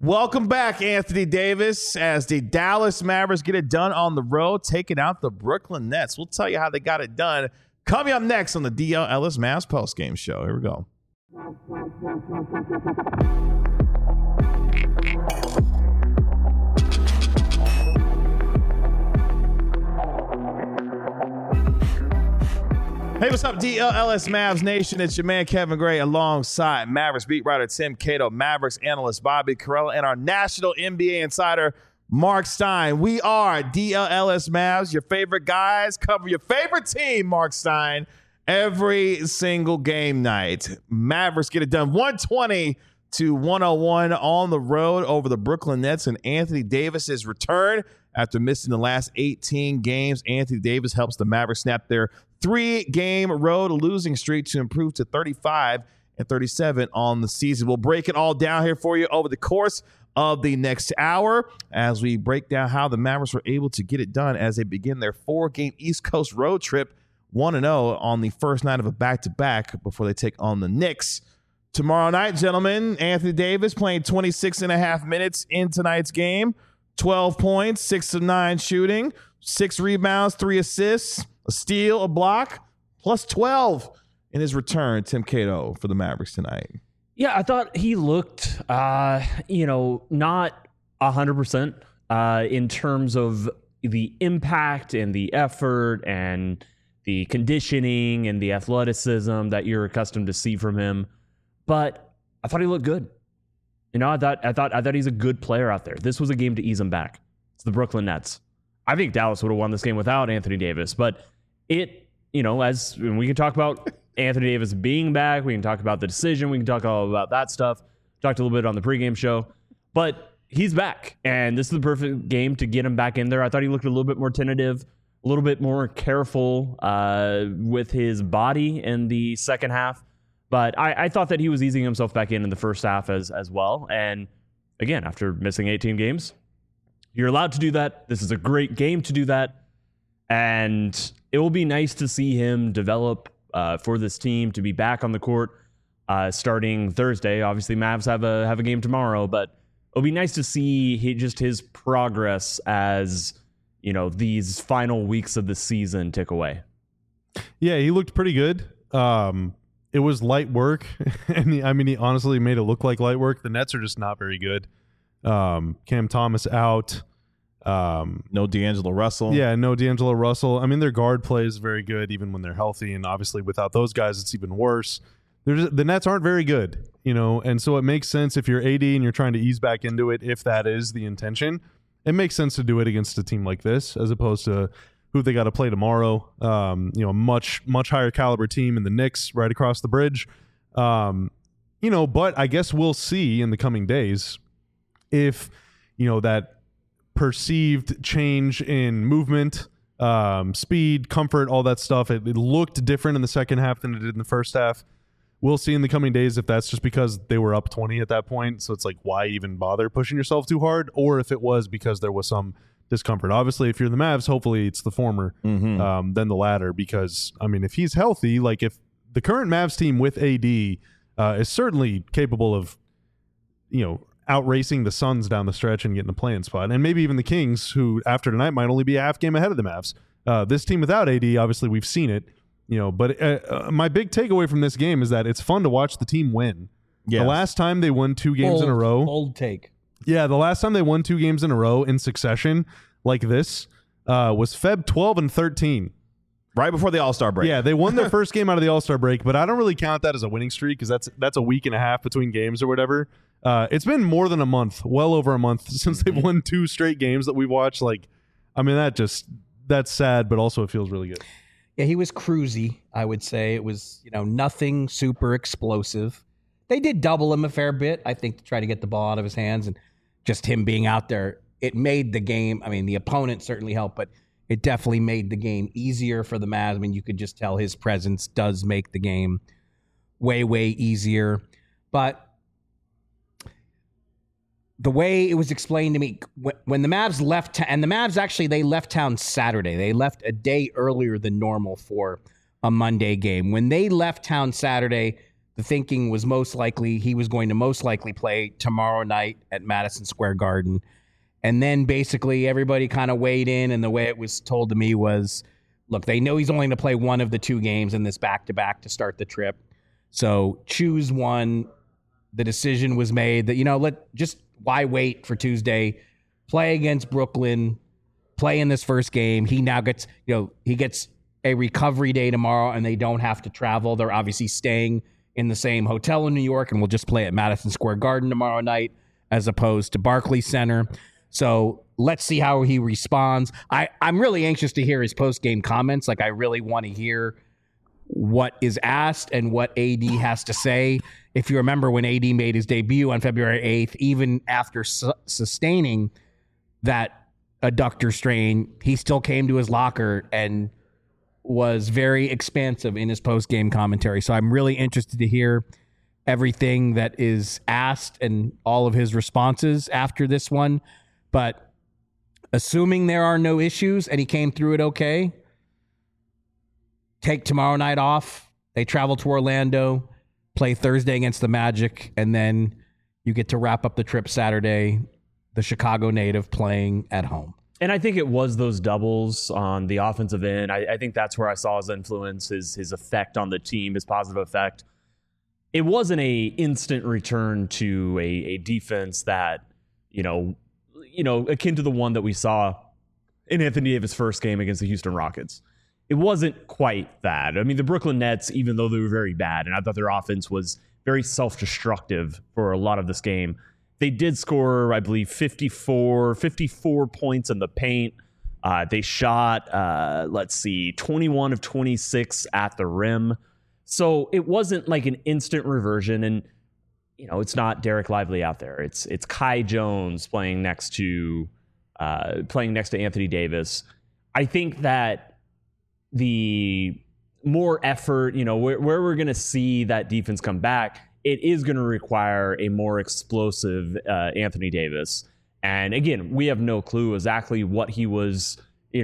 Welcome back, Anthony Davis, as the Dallas Mavericks get it done on the road, taking out the Brooklyn Nets. We'll tell you how they got it done. Coming up next on the DL Ellis Mavs postgame show. Here we go. Hey, what's up, DLS Mavs Nation? It's your man, Kevin Gray, alongside Mavericks beat writer Tim Cato, Mavericks analyst Bobby Carella, and our national NBA insider, Mark Stein. We are DLS Mavs, your favorite guys, cover your favorite team, Mark Stein, every single game night. Mavericks get it done 120-101 on the road over the Brooklyn Nets, and Anthony Davis's return after missing the last 18 games. Anthony Davis helps the Mavericks snap their 3-game road losing streak to improve to 35-37 on the season. We'll break it all down here for you over the course of the next hour as we break down how the Mavericks were able to get it done as they begin their 4-game East Coast road trip, 1-0 on the first night of a back-to-back before they take on the Knicks tomorrow night. Gentlemen, Anthony Davis playing 26 and a half minutes in tonight's game, 12 points, 6 of 9 shooting, 6 rebounds, 3 assists, a steal, a block, plus 12 in his return. Tim Cato for the Mavericks tonight. Yeah, I thought he looked, not 100% in terms of the impact and the effort and the conditioning and the athleticism that you're accustomed to see from him. But I thought he looked good. I thought he's a good player out there. This was a game to ease him back. It's the Brooklyn Nets. I think Dallas would have won this game without Anthony Davis, but as we can talk about Anthony Davis being back, we can talk about the decision, we can talk all about that stuff. Talked a little bit on the pregame show, but he's back, and this is the perfect game to get him back in there. I thought he looked a little bit more tentative, a little bit more careful with his body in the second half, but I thought that he was easing himself back in the first half as well. And again, after missing 18 games, you're allowed to do that. This is a great game to do that. And it will be nice to see him develop for this team, to be back on the court starting Thursday. Obviously, Mavs have a game tomorrow, but it'll be nice to see his progress as, these final weeks of the season tick away. Yeah, he looked pretty good. It was light work, and he honestly made it look like light work. The Nets are just not very good. Cam Thomas out. No D'Angelo Russell. Yeah, no D'Angelo Russell. Their guard play is very good even when they're healthy, and obviously without those guys, it's even worse. The Nets aren't very good, and so it makes sense if you're AD and you're trying to ease back into it, if that is the intention. It makes sense to do it against a team like this as opposed to who they got to play tomorrow. Much higher caliber team in the Knicks right across the bridge. But I guess we'll see in the coming days if that perceived change in movement, speed, comfort, all that stuff, it looked different in the second half than it did in the first half. We'll see in the coming days if that's just because they were up 20 at that point, so it's like, why even bother pushing yourself too hard, or if it was because there was some discomfort. Obviously, if you're the Mavs, hopefully it's the former than the latter, because if he's healthy, like if the current Mavs team with AD is certainly capable of outracing the Suns down the stretch and getting a play-in spot, and maybe even the Kings, who after tonight might only be a half game ahead of the Mavs. This team without AD, obviously we've seen it, but my big takeaway from this game is that it's fun to watch the team win. Yes. The last time they won 2 games in a row. Bold take. Yeah, the last time they won 2 games in a row in succession like this was Feb 12 and 13. Right before the All-Star break. Yeah, they won their first game out of the All-Star break, but I don't really count that as a winning streak because that's a week and a half between games or whatever. It's been more than a month, well over a month, since they've won 2 straight games that we've watched. That's sad, but also it feels really good. Yeah, he was cruisy, I would say. It was, nothing super explosive. They did double him a fair bit, I think, to try to get the ball out of his hands, and just him being out there, it made the game. The opponent certainly helped, but it definitely made the game easier for the Mavs. You could just tell his presence does make the game way, way easier. But the way it was explained to me, when the Mavs left, and the Mavs actually, they left town Saturday. They left a day earlier than normal for a Monday game. When they left town Saturday, the thinking was he was going to most likely play tomorrow night at Madison Square Garden. And then basically everybody kind of weighed in, and the way it was told to me was, look, they know he's only going to play one of the 2 games in this back-to-back to start the trip. So choose one. The decision was made that, why wait for Tuesday? Play against Brooklyn, play in this first game. He now gets, he gets a recovery day tomorrow, and they don't have to travel. They're obviously staying in the same hotel in New York, and we'll just play at Madison Square Garden tomorrow night as opposed to Barclays Center. So let's see how he responds. I'm really anxious to hear his post-game comments. I really want to hear what is asked and what AD has to say. If you remember when AD made his debut on February 8th, even after sustaining that adductor strain, he still came to his locker and was very expansive in his post-game commentary. So I'm really interested to hear everything that is asked and all of his responses after this one. But assuming there are no issues and he came through it okay, take tomorrow night off. They travel to Orlando, play Thursday against the Magic, and then you get to wrap up the trip Saturday, the Chicago native playing at home. And I think it was those doubles on the offensive end. I think that's where I saw his influence, his effect on the team, his positive effect. It wasn't a instant return to a defense that, akin to the one that we saw in Anthony Davis' first game against the Houston Rockets. It wasn't quite that. I mean, the Brooklyn Nets, even though they were very bad, and I thought their offense was very self-destructive for a lot of this game, they did score, I believe, 54 points in the paint. They shot, 21 of 26 at the rim. So it wasn't like an instant reversion. And, it's not Derek Lively out there. It's Kai Jones playing next to Anthony Davis. I think that the more effort, where we're going to see that defense come back, it is going to require a more explosive Anthony Davis. And again, we have no clue exactly what he was.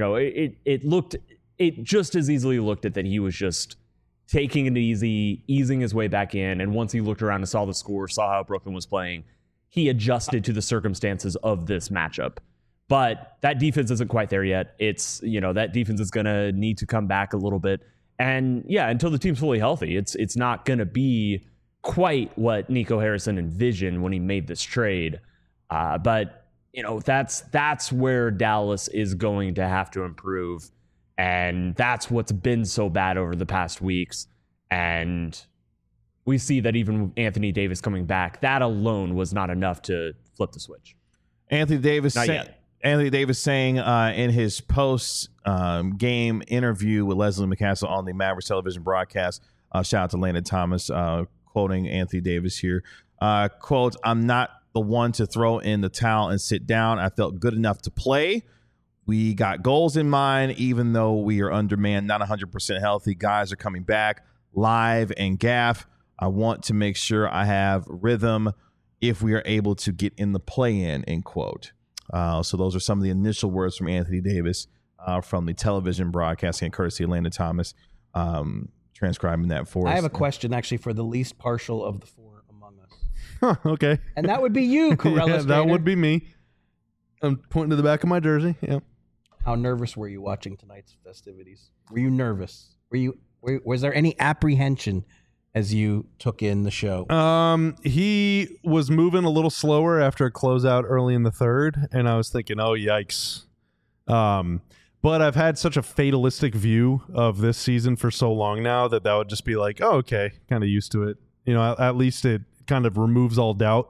It just as easily looked at that he was just taking it easy, easing his way back in. And once he looked around and saw the score, saw how Brooklyn was playing, he adjusted to the circumstances of this matchup. But that defense isn't quite there yet. It's, that defense is going to need to come back a little bit. And yeah, until the team's fully healthy, it's not going to be quite what Nico Harrison envisioned when he made this trade. But that's where Dallas is going to have to improve. And that's what's been so bad over the past weeks. And we see that even Anthony Davis coming back, that alone was not enough to flip the switch. Anthony Davis saying in his post-game interview with Leslie McCaskill on the Mavericks television broadcast, shout out to Landon Thomas, quoting Anthony Davis here, quote, "I'm not the one to throw in the towel and sit down. I felt good enough to play. We got goals in mind, even though we are undermanned, not 100% healthy. Guys are coming back live and gaff. I want to make sure I have rhythm if we are able to get in the play-in," end quote. So those are some of the initial words from Anthony Davis from the television broadcasting, courtesy of Landon Thomas, transcribing that for us. I have a question, actually, for the least partial of the four among us. Huh, okay. And that would be you, Corella. Yeah, that would be me. I'm pointing to the back of my jersey. Yeah. How nervous were you watching tonight's festivities? Were you nervous? Was there any apprehension as you took in the show? He was moving a little slower after a closeout early in the third, and I was thinking, oh, yikes. But I've had such a fatalistic view of this season for so long now that would just be like, oh, okay, kind of used to it. At least it kind of removes all doubt.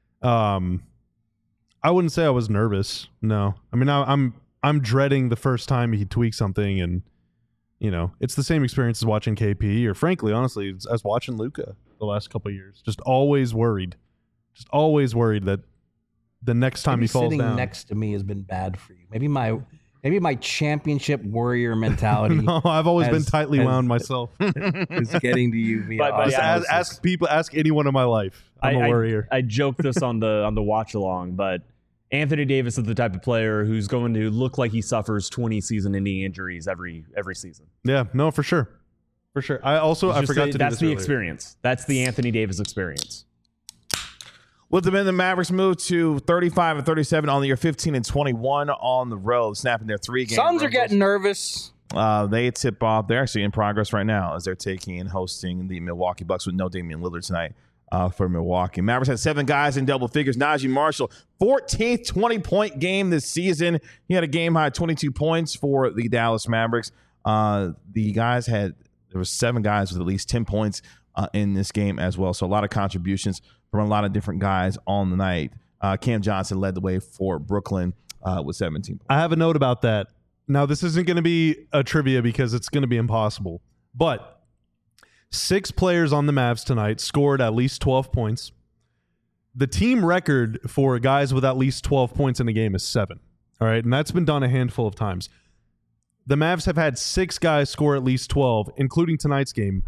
I wouldn't say I was nervous. No. I mean, I'm dreading the first time he tweaks something, and it's the same experience as watching KP, or frankly, honestly, as watching Luka the last couple of years. Just always worried that the next time he falls down. Sitting next to me has been bad for you. Maybe my championship warrior mentality. No, I've always been tightly wound myself. Is getting to you. But ask anyone in my life. I'm a warrior. I joked this on the watch along, but Anthony Davis is the type of player who's going to look like he suffers 20 season-ending injuries every season. Yeah, no, for sure. For sure. I forgot to do That's this the earlier. experience. That's the Anthony Davis experience. With the Mavericks move to 35-37 on the year, 15-21 on the road, snapping their 3-game. Suns are getting nervous. They tip off. They're actually in progress right now as they're taking and hosting the Milwaukee Bucks with no Damian Lillard tonight for Milwaukee. Mavericks had 7 guys in double figures. Najee Marshall, 14th 20-point game this season. He had a game-high 22 points for the Dallas Mavericks. There were 7 guys with at least 10 points in this game as well. So a lot of contributions from a lot of different guys on the night. Cam Johnson led the way for Brooklyn with 17 points. I have a note about that. Now, this isn't going to be a trivia because it's going to be impossible. But 6 players on the Mavs tonight scored at least 12 points. The team record for guys with at least 12 points in a game is 7. All right, and that's been done a handful of times. The Mavs have had 6 guys score at least 12, including tonight's game,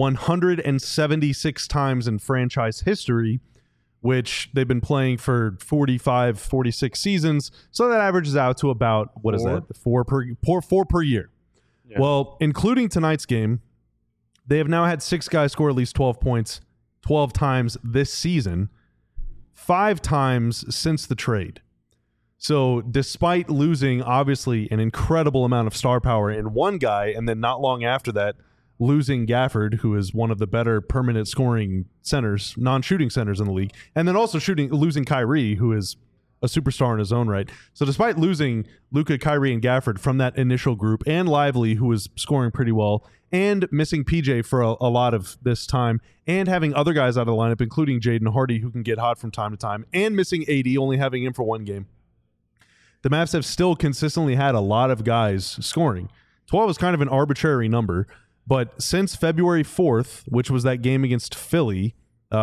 176 times in franchise history, which they've been playing for 45, 46 seasons. So that averages out to about, what is that? 4 per year. Yeah. Well, including tonight's game, they have now had 6 guys score at least 12 points 12 times this season, 5 times since the trade. So despite losing, obviously, an incredible amount of star power in one guy, and then not long after that, losing Gafford, who is one of the better permanent scoring centers, non-shooting centers in the league, and then also losing Kyrie, who is a superstar in his own right. So despite losing Luka, Kyrie, and Gafford from that initial group, and Lively, who was scoring pretty well, and missing PJ for a lot of this time, and having other guys out of the lineup, including Jaden Hardy, who can get hot from time to time, and missing AD, only having him for one game, the Mavs have still consistently had a lot of guys scoring. 12 is kind of an arbitrary number, but since February 4th, which was that game against Philly,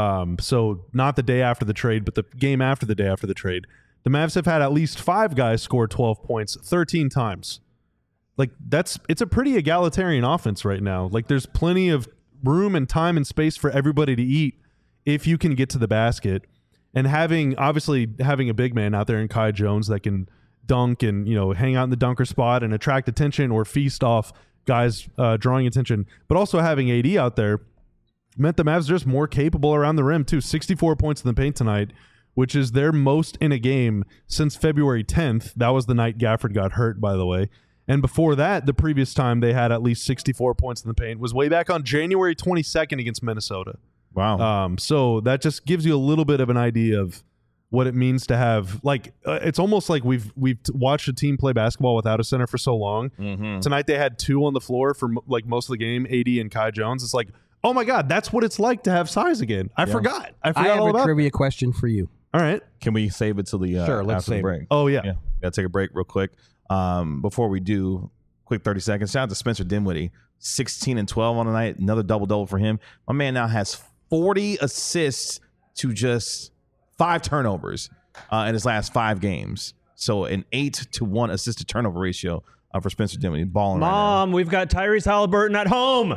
so not the day after the trade, but the game after the day after the trade, the Mavs have had at least 5 guys score 12 points 13 times. Like, it's a pretty egalitarian offense right now. Like, there's plenty of room and time and space for everybody to eat if you can get to the basket. And having a big man out there in Kai Jones that can dunk and, hang out in the dunker spot and attract attention or feast off guys drawing attention, but also having AD out there meant the Mavs are just more capable around the rim too. 64 points in the paint tonight, which is their most in a game since February 10th. That was the night Gafford got hurt, by the way. And before that, the previous time they had at least 64 points in the paint was way back on January 22nd against Minnesota. Wow. So that just gives you a little bit of an idea of what it means to have, it's almost like we've watched a team play basketball without a center for so long. Mm-hmm. Tonight they had 2 on the floor for most of the game, AD and Kai Jones. It's like, oh my God, that's what it's like to have size again. I forgot I have all a about trivia question for you. All right. Can we save it till the Sure, let's after the save break? it. Oh, yeah. Gotta take a break real quick. Before we do, quick 30 seconds. Shout out to Spencer Dinwiddie, 16 and 12 on the night. Another double-double for him. My man now has 40 assists to just 5 turnovers in his last 5 games. So an 8-to-1 assist to turnover ratio for Spencer Dinwiddie. Balling Mom, we've got Tyrese Halliburton at home.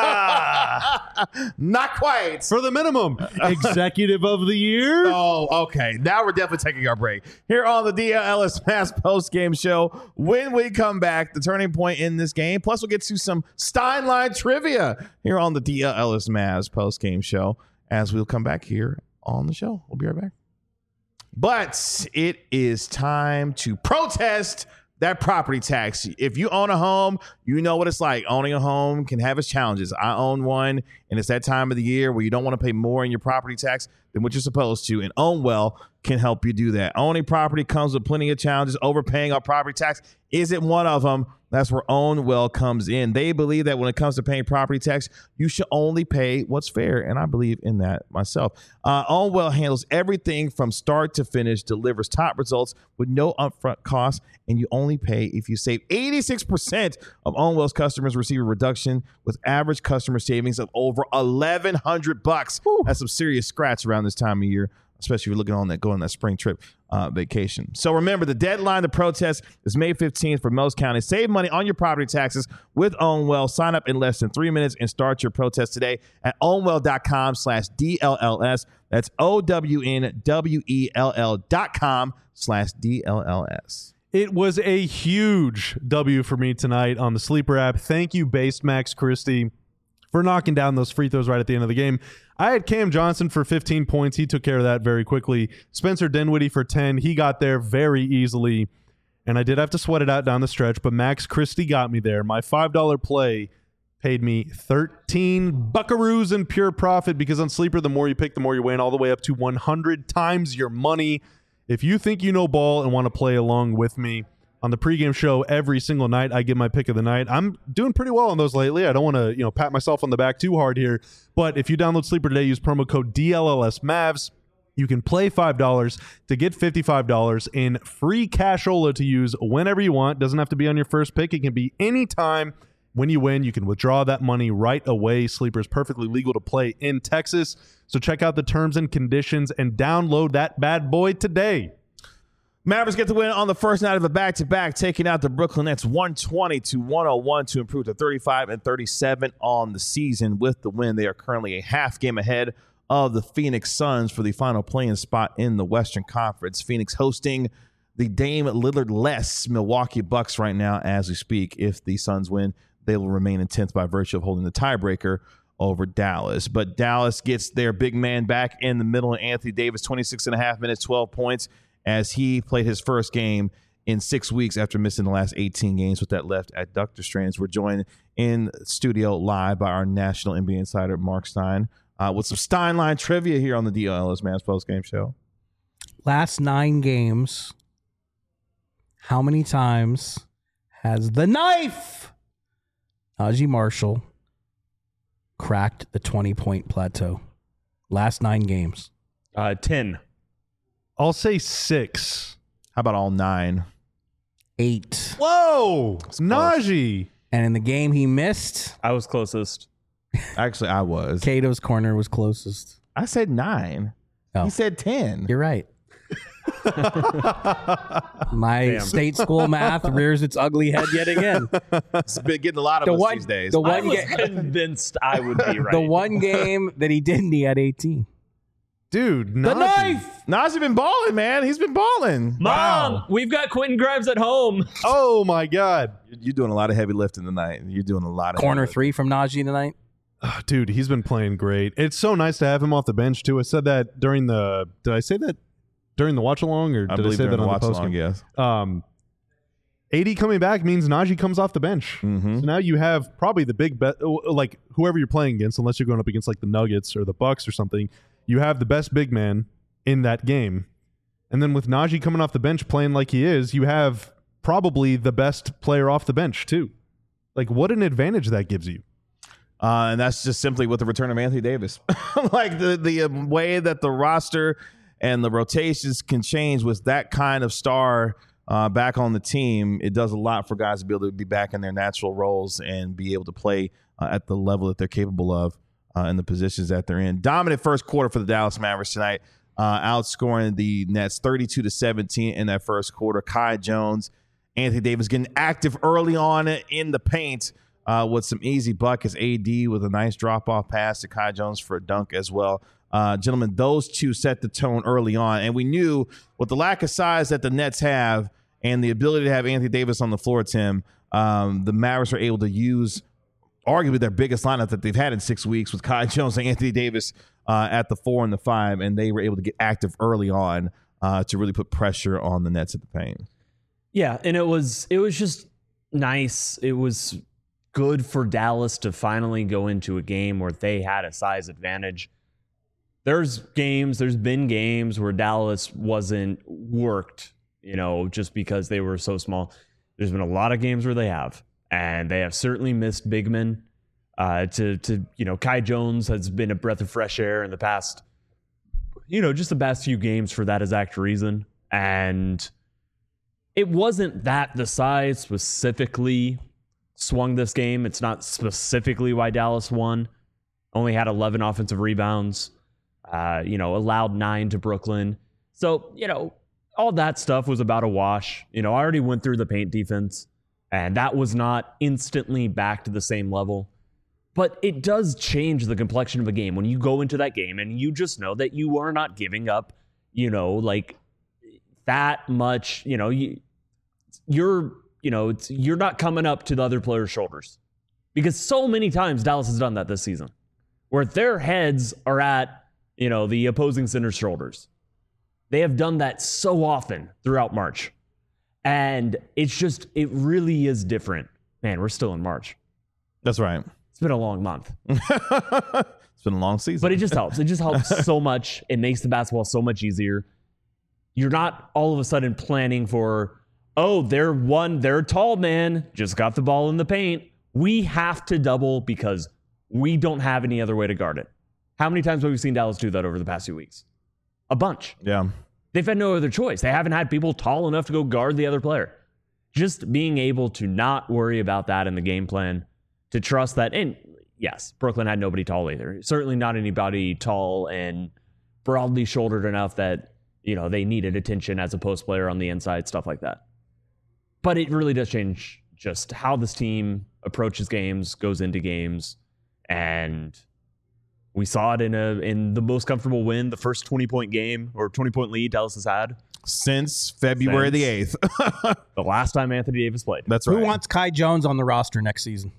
Not quite. For the minimum. Executive of the year. Oh, okay. Now we're definitely taking our break. Here on the DLS Mass post-game show. When we come back, the turning point in this game. Plus, we'll get to some Steinline trivia here on the DLS Mass post-game show as we'll come back here on the show. We'll be right back. But it is time to protest that property tax. If you own a home, you know what it's like. Owning a home can have its challenges. I own one, and it's that time of the year where you don't want to pay more in your property tax than what you're supposed to, and OwnWell can help you do that. Owning property comes with plenty of challenges. Overpaying our property tax isn't one of them. That's where OwnWell comes in. They believe that when it comes to paying property tax, you should only pay what's fair, and I believe in that myself. OwnWell handles everything from start to finish, delivers top results with no upfront costs, and you only pay if you save. 86% of OwnWell's customers receive a reduction with average customer savings of over $1,100. That's some serious scratch around this time of year, especially if you're looking on that going on that spring trip vacation. So remember, the deadline to protest is May 15th for most counties. Save money on your property taxes with OwnWell. Sign up in less than 3 minutes and start your protest today at ownwell.com/DLLS. That's OWNWELL.com/DLLS. It was a huge W for me tonight on the Sleeper app. Thank you, Based Max Christie, for knocking down those free throws right at the end of the game. I had Cam Johnson for 15 points. He took care of that very quickly. Spencer Dinwiddie for 10. He got there very easily. And I did have to sweat it out down the stretch, but Max Christie got me there. My $5 play paid me 13 buckaroos in pure profit, because on Sleeper, the more you pick, the more you win, all the way up to 100 times your money. If you think you know ball and want to play along with me, on the pregame show every single night, I give my pick of the night. I'm doing pretty well on those lately. I don't want to, pat myself on the back too hard here. But if you download Sleeper today, use promo code DLLSMavs. You can play $5 to get $55 in free cashola to use whenever you want. Doesn't have to be on your first pick. It can be any time. When you win, you can withdraw that money right away. Sleeper is perfectly legal to play in Texas. So check out the terms and conditions and download that bad boy today. Mavericks get the win on the first night of a back-to-back, taking out the Brooklyn Nets 120-101 to improve to 35-37 on the season. With the win, they are currently a half game ahead of the Phoenix Suns for the final play-in spot in the Western Conference. Phoenix hosting the Dame Lillard-less Milwaukee Bucks right now as we speak. If the Suns win, they will remain in 10th by virtue of holding the tiebreaker over Dallas. But Dallas gets their big man back in the middle, and Anthony Davis, 26.5 minutes, 12 points, as he played his first game in 6 weeks after missing the last 18 games with that left adductor strains. We're joined in studio live by our national NBA insider, Mark Stein, with some Steinline trivia here on the DLS Mavs postgame show. Last 9 games, how many times has the knife, Najee Marshall, cracked the 20-point plateau? Last 9 games. 10. I'll say 6. How about all 9? 8. Whoa! Najee! And in the game he missed, I was closest. Actually, I was. Cato's corner was closest. I said 9. Oh. He said 10. You're right. My Damn. state school math rears its ugly head yet again. It's been getting a lot of The us one- these days. the I one was ga- convinced I would be right. The one game that he didn't, he had 18. Dude, The Najee. knife! Najee been balling, man. He's been balling. Mom, we've got Quentin Grimes at home. Oh, my God. You're doing a lot of heavy lifting tonight. You're doing a lot of Corner heavy 3 from Najee tonight. Dude, he's been playing great. It's so nice to have him off the bench, too. I said that during the... Did I say that during the watch-along, or I did I believe say that during on the the watch-along, postgame? yes. AD coming back means Najee comes off the bench. Mm-hmm. So now you have probably the big bet, like whoever you're playing against, unless you're going up against like the Nuggets or the Bucks or something, you have the best big man in that game. And then with Najee coming off the bench playing like he is, you have probably the best player off the bench too. Like, what an advantage that gives you. And that's just simply with the return of Anthony Davis. Like the way that the roster and the rotations can change with that kind of star back on the team, it does a lot for guys to be able to be back in their natural roles and be able to play at the level that they're capable of in the positions that they're in. Dominant first quarter for the Dallas Mavericks tonight, outscoring the Nets 32-17 in that first quarter. Kai Jones, Anthony Davis getting active early on in the paint with some easy buckets. AD with a nice drop-off pass to Kai Jones for a dunk as well. Gentlemen, those two set the tone early on, and we knew with the lack of size that the Nets have and the ability to have Anthony Davis on the floor, Tim, the Mavericks were able to use arguably their biggest lineup that they've had in 6 weeks with Kai Jones and Anthony Davis at the 4 and the 5, and they were able to get active early on to really put pressure on the Nets at the paint. Yeah, and it was just nice. It was good for Dallas to finally go into a game where they had a size advantage. There's been games where Dallas wasn't worked, just because they were so small. There's been a lot of games where they have, and they have certainly missed big men. Kai Jones has been a breath of fresh air in the past, just the past few games for that exact reason. And it wasn't that the size specifically swung this game. It's not specifically why Dallas won. Only had 11 offensive rebounds. Allowed 9 to Brooklyn. So, all that stuff was about a wash. I already went through the paint defense, and that was not instantly back to the same level. But it does change the complexion of a game when you go into that game and you just know that you are not giving up, that much. You're not coming up to the other player's shoulders. Because so many times Dallas has done that this season, where their heads are at, the opposing center's shoulders. They have done that so often throughout March. And it really is different. Man, we're still in March. That's right. It's been a long month. It's been a long season. But it just helps. It just helps so much. It makes the basketball so much easier. You're not all of a sudden planning for, they're tall man, just got the ball in the paint. We have to double because we don't have any other way to guard it. How many times have we seen Dallas do that over the past few weeks? A bunch. Yeah. They've had no other choice. They haven't had people tall enough to go guard the other player. Just being able to not worry about that in the game plan, to trust that. And yes, Brooklyn had nobody tall either. Certainly not anybody tall and broadly shouldered enough that, they needed attention as a post player on the inside, stuff like that. But it really does change just how this team approaches games, goes into games, and we saw it in the most comfortable win, the first 20-point game or 20-point lead Dallas has had since February the 8th. The last time Anthony Davis played. That's right. Who wants Kai Jones on the roster next season?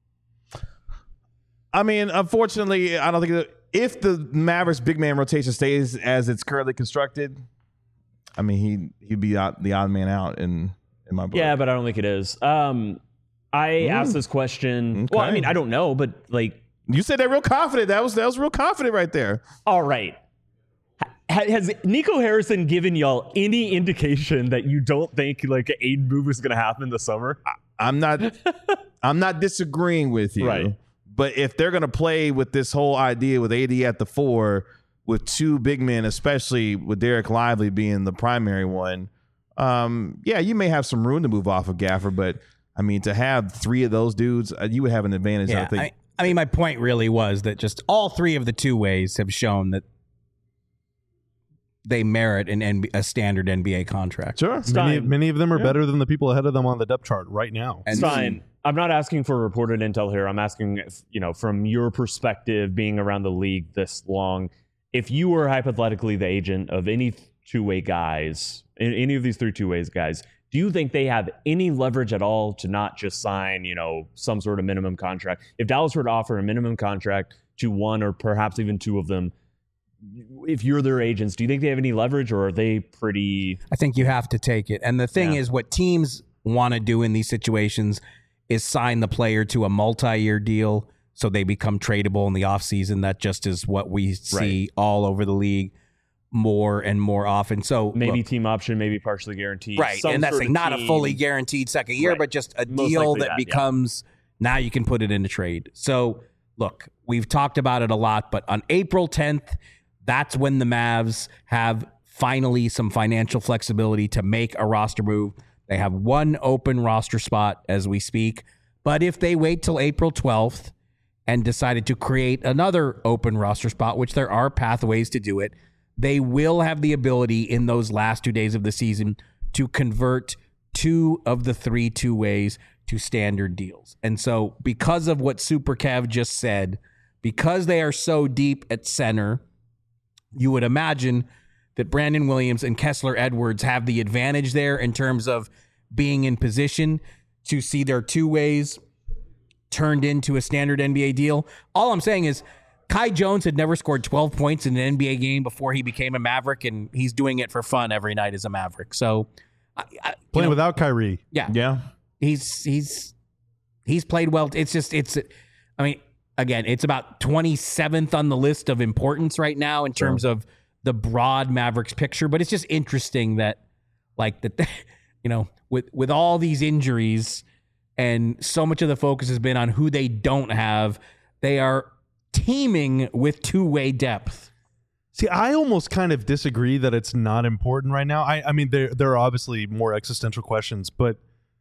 I mean, unfortunately, I don't think that if the Mavericks big man rotation stays as it's currently constructed, I mean, he'd be the odd man out in my book. Yeah, but I don't think it is. I asked this question. Okay. Well, I mean, I don't know, but you said that real confident. That was real confident right there. All right. Has Nico Harrison given y'all any indication that you don't think like an Aiden move is going to happen this summer? I'm not disagreeing with you. Right. But if they're going to play with this whole idea with AD at the 4, with 2 big men, especially with Derek Lively being the primary one, you may have some room to move off of Gafford. But, I mean, to have 3 of those dudes, you would have an advantage. Yeah, I think. I mean, my point really was that just all 3 of the 2 ways have shown that they merit a standard NBA contract. Sure. Many of them are better than the people ahead of them on the depth chart right now. And Stein, I'm not asking for reported intel here. I'm asking, from your perspective, being around the league this long, if you were hypothetically the agent of any two-way guys, any of these 3 two-ways guys, do you think they have any leverage at all to not just sign, some sort of minimum contract? If Dallas were to offer a minimum contract to 1 or perhaps even 2 of them, if you're their agents, do you think they have any leverage, or are they pretty? I think you have to take it. And the thing is, what teams want to do in these situations is sign the player to a multi-year deal so they become tradable in the offseason. That just is what we see all over the league more and more often. So maybe team option, maybe partially guaranteed. Right. And that's not a fully guaranteed second year, but just a deal that becomes now you can put it in a trade. So look, we've talked about it a lot, but on April 10th, that's when the Mavs have finally some financial flexibility to make a roster move. They have 1 open roster spot as we speak. But if they wait till April 12th and decided to create another open roster spot, which there are pathways to do it, they will have the ability in those last 2 days of the season to convert 2 of the 3 two-ways to standard deals. And so because of what Super Kev just said, because they are so deep at center, you would imagine that Brandon Williams and Kessler Edwards have the advantage there in terms of being in position to see their two-ways turned into a standard NBA deal. All I'm saying is Kai Jones had never scored 12 points in an NBA game before he became a Maverick, and he's doing it for fun every night as a Maverick. So playing without Kyrie. Yeah. He's played well. Again, it's about 27th on the list of importance right now in terms of the broad Mavericks picture. But it's just interesting that, with all these injuries and so much of the focus has been on who they don't have, they are teeming with two-way depth. See, I almost kind of disagree that it's not important right now. I mean, there are obviously more existential questions, but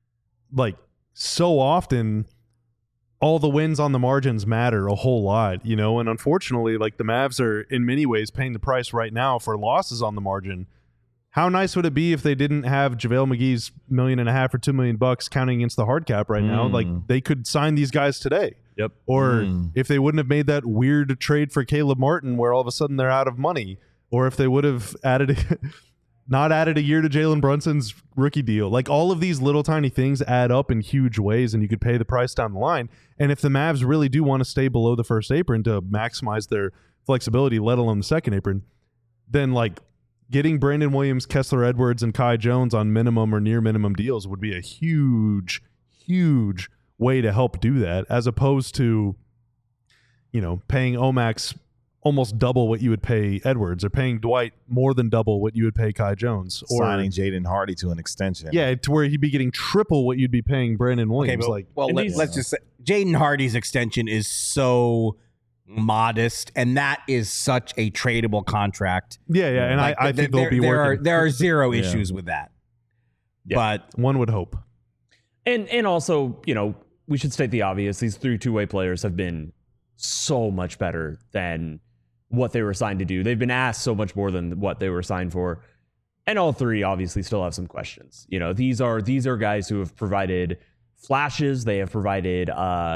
so often all the wins on the margins matter a whole lot, and unfortunately, the Mavs are in many ways paying the price right now for losses on the margin. How nice would it be if they didn't have JaVale McGee's $1.5 million or $2 million counting against the hard cap right now? They could sign these guys today. Yep. Or if they wouldn't have made that weird trade for Caleb Martin where all of a sudden they're out of money, or if they would have added not added a year to Jalen Brunson's rookie deal. Like, all of these little tiny things add up in huge ways, and you could pay the price down the line. And if the Mavs really do want to stay below the first apron to maximize their flexibility, let alone the second apron, then like getting Brandon Williams, Kessler Edwards, and Kai Jones on minimum or near minimum deals would be a huge, huge way to help do that, as opposed to, you know, paying Omax almost double what you would pay Edwards, or paying Dwight more than double what you would pay Kai Jones, or signing Jaden Hardy to an extension. Yeah, to where he'd be getting triple what you'd be paying Brandon Williams. Let's just say Jaden Hardy's extension is so modest, and that is such a tradable contract. And Like, I think they'll be working. There are zero issues with that. Yeah. But one would hope. And also, you know, we should state the obvious. These 3 two-way players have been so much better than what they were signed to do. They've been asked so much more than what they were signed for. And all 3 obviously still have some questions. You know, these are guys who have provided flashes. They have provided,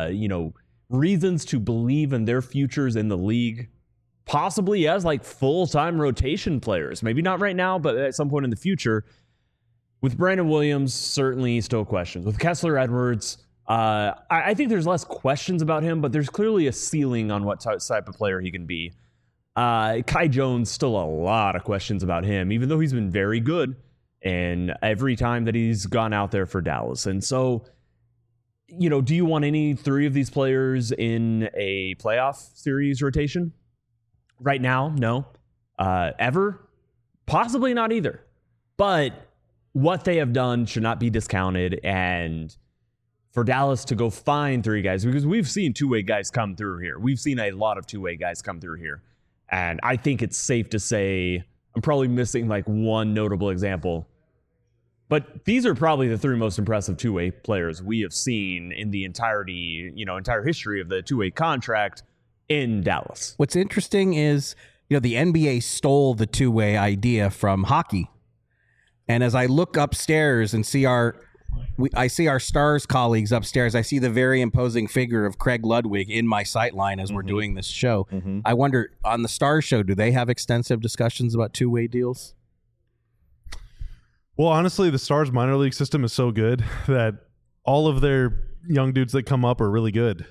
reasons to believe in their futures in the league, possibly as like full-time rotation players. Maybe not right now, but at some point in the future. With Brandon Williams, certainly still questions. With Kessler Edwards, I think there's less questions about him, but there's clearly a ceiling on what type of player he can be. Kai Jones, still a lot of questions about him, even though he's been very good and every time that he's gone out there for Dallas. And so, you know, do you want any 3 of these players in a playoff series rotation? Right now, no. Ever? Possibly not either. But what they have done should not be discounted, and for Dallas to go find 3 guys, because we've seen two-way guys come through here. We've seen a lot of two-way guys come through here. And I think it's safe to say I'm probably missing like one notable example. But these are probably the 3 most impressive two-way players we have seen in the entire history of the two-way contract in Dallas. what's interesting is, you know, the NBA stole the two-way idea from hockey. And as I look upstairs and see I see our Stars colleagues upstairs, I see the very imposing figure of Craig Ludwig in my sightline as we're doing this show. I wonder, on the Stars show, do they have extensive discussions about two-way deals? Well, honestly, the Stars minor league system is so good that all of their young dudes that come up are really good.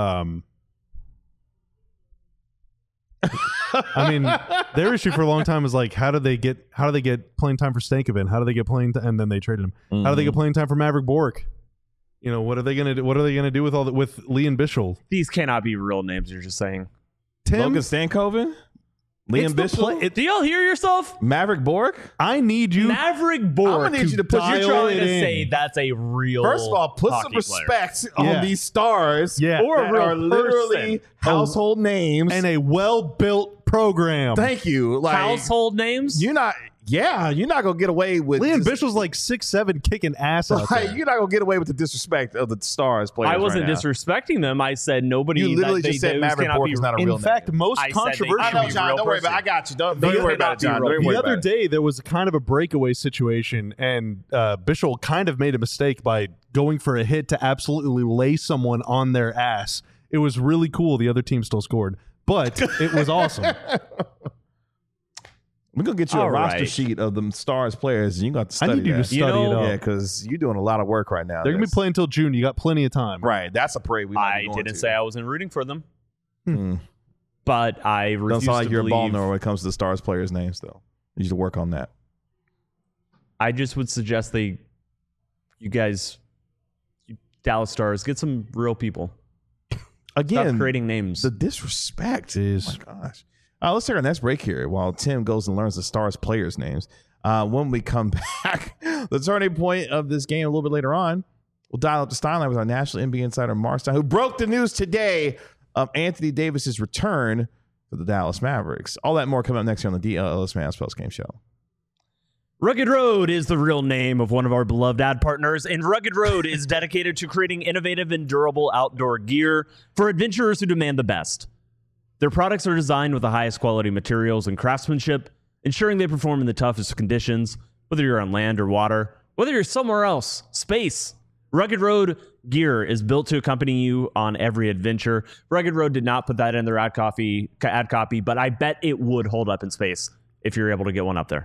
I mean, their issue for a long time is like, how do they get playing time for Stankoven? How do they get playing time? And then they traded him. How do they get playing time for Maverick Bork? You know, what are they gonna do? What are they gonna do with with Liam Bichel? These cannot be real names. You're just saying. Logan Stankoven, Liam Bichel, Do y'all hear yourself? Maverick Bork. I need you. Maverick Bork. I'm gonna need you to put. You're trying to say that's a real. First of all, put some hockey respect player. on these stars. Yeah. Or a that real are literally person. household names. and a well-built program. Thank you. Like, Household names. you're not gonna get away with Liam just- Bichel's like 6'7", kicking ass out Like, there. you're not gonna get away with the disrespect of the Stars players. I wasn't right now. disrespecting them. I said nobody. You literally just said those Maverick cannot Bork be- is not a real In fact, name. most I said they- controversial. I know, be John. real Don't worry about it. I person. got you. Don't They worry cannot about it, be John. real Don't worry The other about it. day, there was kind of a breakaway situation, and Bichel kind of made a mistake by going for a hit to absolutely lay someone on their ass. It was really cool. The other team still scored, but it was awesome. We're gonna get you a All roster right. sheet of them Stars players, and you're gonna have to I study need you to that. study You know- it up. Yeah, because you're doing a lot of work right now. They're gonna be That's- playing until June. You got plenty of time. Right. That's a parade we might I be going didn't to. say I wasn't rooting for them, Mm. but I Don't refuse sound like to you're a ball believe. knower when it comes to the Stars players' names, though. You need to work on that. I just would suggest you Dallas Stars, get some real people. Stop Again, creating names. the disrespect. Jeez. Oh my gosh. Let's take our next break here while Tim goes and learns the Stars players' names. When we come back, the turning point of this game a little bit later on, we'll dial up the Steinline with our national NBA insider, Mark Stein, who broke the news today of Anthony Davis's return for the Dallas Mavericks. All that and more coming up next here on the DLS Mavs Post Game Show. Rugged Road is the real name of one of our beloved ad partners, and Rugged Road is dedicated to creating innovative and durable outdoor gear for adventurers who demand the best. Their products are designed with the highest quality materials and craftsmanship, ensuring they perform in the toughest conditions, whether you're on land or water, whether you're somewhere else, space. Rugged Road gear is built to accompany you on every adventure. Rugged Road did not put that in their ad copy, but I bet it would hold up in space if you're able to get one up there.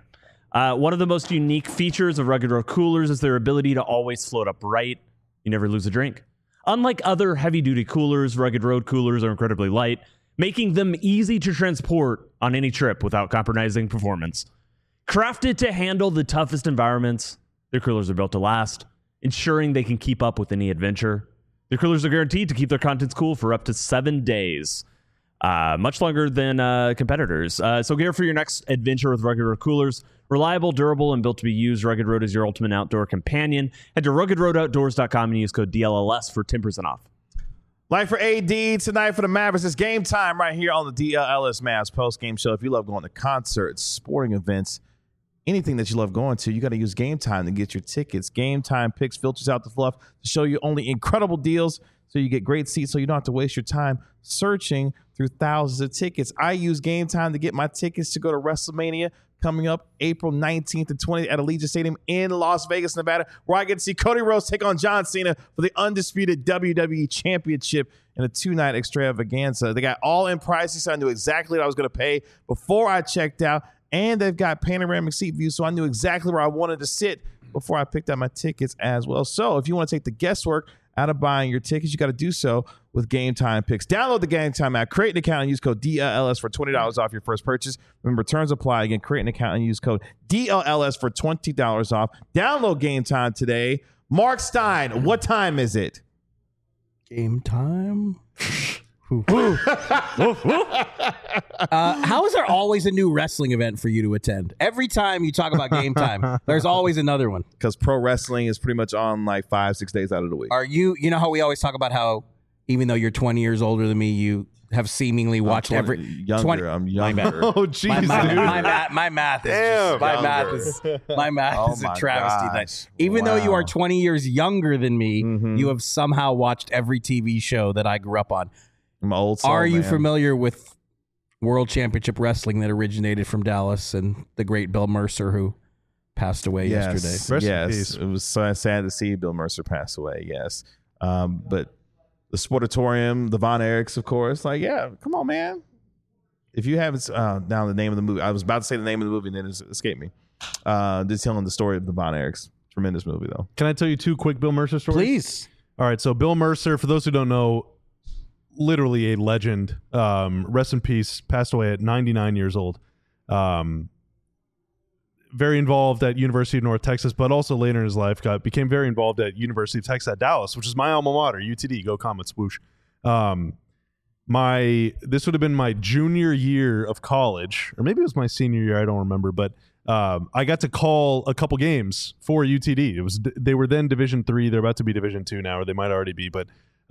One of the most unique features of Rugged Road coolers is their ability to always float upright. You never lose a drink. Unlike other heavy-duty coolers, Rugged Road coolers are incredibly light, making them easy to transport on any trip without compromising performance. Crafted to handle the toughest environments, their coolers are built to last, ensuring they can keep up with any adventure. Their coolers are guaranteed to keep their contents cool for up to 7 days, much longer than competitors. So gear for your next adventure with Rugged Road coolers. Reliable, durable, and built to be used, Rugged Road is your ultimate outdoor companion. Head to ruggedroadoutdoors.com and use code DLLS for 10% off. Like for AD tonight for the Mavericks, it's game time right here on the DLLS Mavs post-game show. If you love going to concerts, sporting events, anything that you love going to, you got to use Game Time to get your tickets. Game Time picks filters out the fluff to show you only incredible deals so you get great seats so you don't have to waste your time searching through thousands of tickets. I use Game Time to get my tickets to go to WrestleMania coming up April 19th and 20th at Allegiant Stadium in Las Vegas, Nevada, where I get to see Cody Rhodes take on John Cena for the undisputed WWE Championship in a 2-night extravaganza. They got all-in pricing, so I knew exactly what I was going to pay before I checked out, and they've got panoramic seat views, so I knew exactly where I wanted to sit before I picked out my tickets as well. So if you want to take the guesswork out of buying your tickets, you got to do so with Game Time picks. Download the Game Time app, create an account, and use code DLLS for $20 off your first purchase. Remember, terms apply. Again, create an account and use code DLLS for $20 off. Download Game Time today. Mark Stein, what time is it? Game time. How is there always a new wrestling event for you to attend? Every time you talk about Game Time, there's always another one. Because pro wrestling is pretty much on like 5-6 days out of the week. Are you know how we always talk about how even though you're 20 years older than me, you have seemingly watched every younger. I'm younger. Oh, jeez, dude. My math is Damn. my math is a travesty. Gosh. Even though you Wow. are 20 years younger than me, you have somehow watched every TV show that I grew up on. I'm an old soul, Are you man. familiar with World Championship Wrestling that originated from Dallas and the great Bill Mercer who passed away yesterday? Rest in Yes, peace. it was so sad to see Bill Mercer pass away. Yes, but the Sportatorium, the Von Erichs, of course. Like, yeah, come on, man. If you haven't, now the name of the movie. I was about to say the name of the movie, and then it escaped me. Just telling the story of the Von Erichs. Tremendous movie, though. Can I tell you 2 quick Bill Mercer stories? Please. All right, so Bill Mercer, for those who don't know, literally a legend. Rest in peace. Passed away at 99 years old. Very involved at University of North Texas, but also later in his life became very involved at University of Texas at Dallas, which is my alma mater, UTD. Go Comets, swoosh. This would have been my junior year of college, or maybe it was my senior year. I don't remember, but I got to call a couple games for UTD. They were then Division III. They're about to be Division II now, or they might already be. But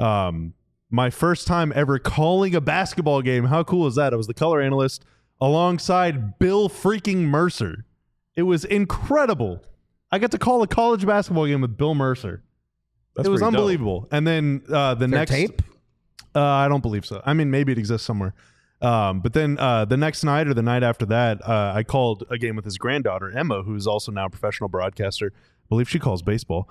my first time ever calling a basketball game. How cool is that? I was the color analyst alongside Bill freaking Mercer. It was incredible. I got to call a college basketball game with Bill Mercer. That's it was pretty dope. unbelievable. And then the next tape? I don't believe so. I mean, maybe it exists somewhere. But then the next night or the night after that, I called a game with his granddaughter, Emma, who's also now a professional broadcaster. I believe she calls baseball.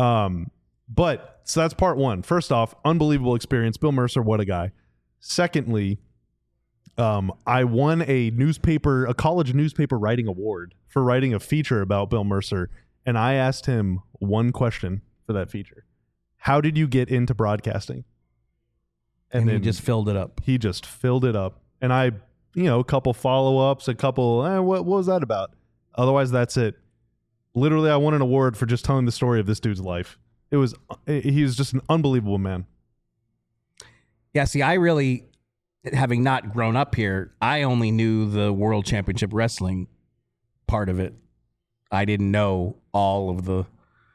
But so that's part one. First off, unbelievable experience. Bill Mercer, what a guy. Secondly, I won a college newspaper writing award for writing a feature about Bill Mercer. And I asked him one question for that feature. How did you get into broadcasting? And then he just filled it up. He just filled it up. And I, a couple follow-ups, a couple, what was that about? Otherwise, that's it. Literally, I won an award for just telling the story of this dude's life. He was just an unbelievable man. Yeah, see, I really, having not grown up here, I only knew the World Championship Wrestling part of it. I didn't know all of the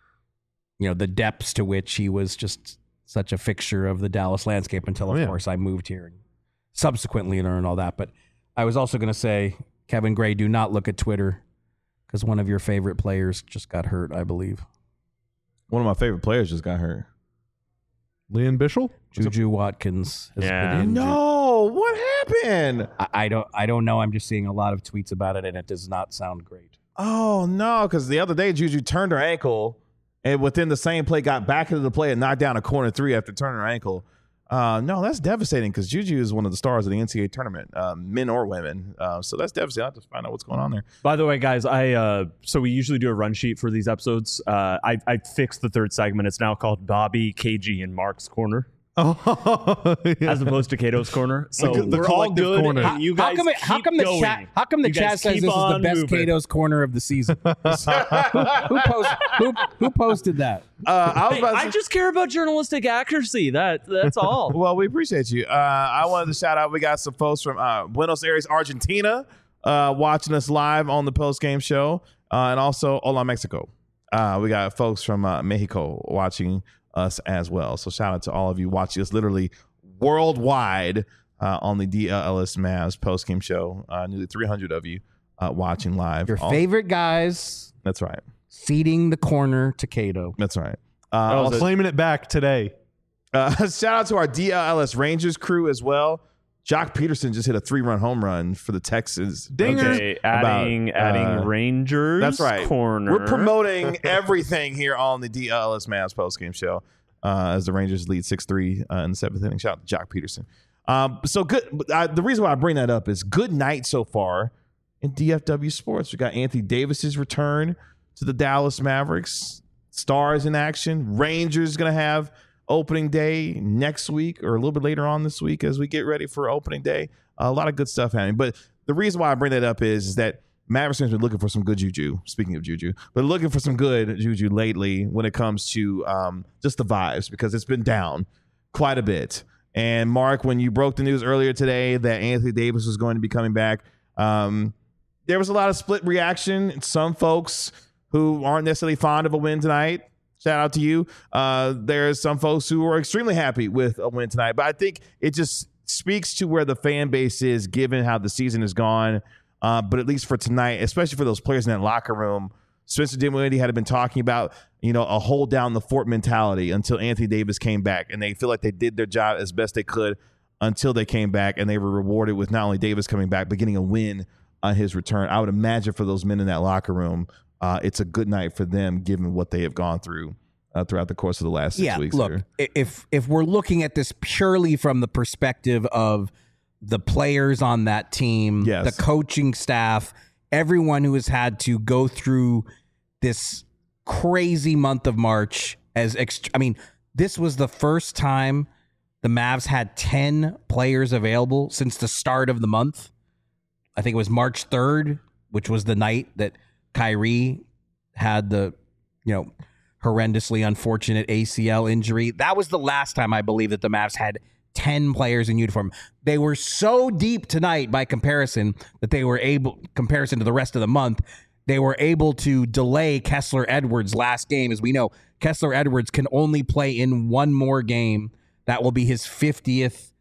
depths to which he was just such a fixture of the Dallas landscape until, of course, I moved here and subsequently learned all that. But I was also going to say, Kevin Gray, do not look at Twitter because one of your favorite players just got hurt, I believe. One of my favorite players just got hurt. Leon Bishel? Juju Watkins has Yeah. been injured. No, what happened? I don't know. I'm just seeing a lot of tweets about it, and it does not sound great. Oh, no, because the other day, Juju turned her ankle and within the same play got back into the play and knocked down a corner three after turning her ankle. No, that's devastating because Juju is one of the stars of the NCAA tournament, men or women. So that's devastating. I have to find out what's going on there. By the way, guys, so we usually do a run sheet for these episodes. I fixed the third segment. It's now called Bobby, KG, and Mark's Corner. Oh, yeah. As opposed to Cato's Corner. So The we're all collective good. corner. And you guys how come the chat says this is the best Cato's corner of the season? who posted that? I just care about journalistic accuracy. That's all. Well, we appreciate you. I wanted to shout out. We got some folks from Buenos Aires, Argentina, watching us live on the post game show, and also Hola Mexico. We got folks from Mexico watching us as well. So shout out to all of you watching us literally worldwide on the DLS Mavs post game show. Nearly 300 of you watching live. Your favorite guys. That's right. Ceding the corner to Cato. That's right. Claiming it back today. Shout out to our DLS Rangers crew as well. Jock Peterson just hit a 3-run home run for the Texans. Dinger. Okay, adding Rangers. That's right. Corner. We're promoting everything here on the DLS Mavs postgame show as the Rangers lead 6-3 in the 7th inning. Shout out to Jock Peterson. So good. The reason why I bring that up is good night so far in DFW sports. We got Anthony Davis's return to the Dallas Mavericks. Stars in action. Rangers going to have opening day next week or a little bit later on this week as we get ready for opening day. A lot of good stuff happening. But the reason why I bring that up is that Mavericks fans have been looking for some good juju, speaking of juju, but looking for some good juju lately when it comes to just the vibes because it's been down quite a bit. And Mark, when you broke the news earlier today that Anthony Davis was going to be coming back, there was a lot of split reaction. Some folks who aren't necessarily fond of a win tonight, shout out to you. There's some folks who are extremely happy with a win tonight. But I think it just speaks to where the fan base is given how the season has gone. But at least for tonight, especially for those players in that locker room, Spencer Dinwiddie had been talking about, a hold down the fort mentality until Anthony Davis came back. And they feel like they did their job as best they could until they came back. And they were rewarded with not only Davis coming back, but getting a win on his return. I would imagine for those men in that locker room, it's a good night for them given what they have gone through throughout the course of the last 6 weeks. Look, if we're looking at this purely from the perspective of the players on that team, yes, the coaching staff, everyone who has had to go through this crazy month of March this was the first time the Mavs had 10 players available since the start of the month. I think it was March 3rd, which was the night that Kyrie had the, horrendously unfortunate ACL injury. That was the last time I believe that the Mavs had 10 players in uniform. They were so deep tonight by comparison that they were able, comparison to the rest of the month, they were able to delay Kessler Edwards' last game. As we know, Kessler Edwards can only play in one more game. That will be his 50th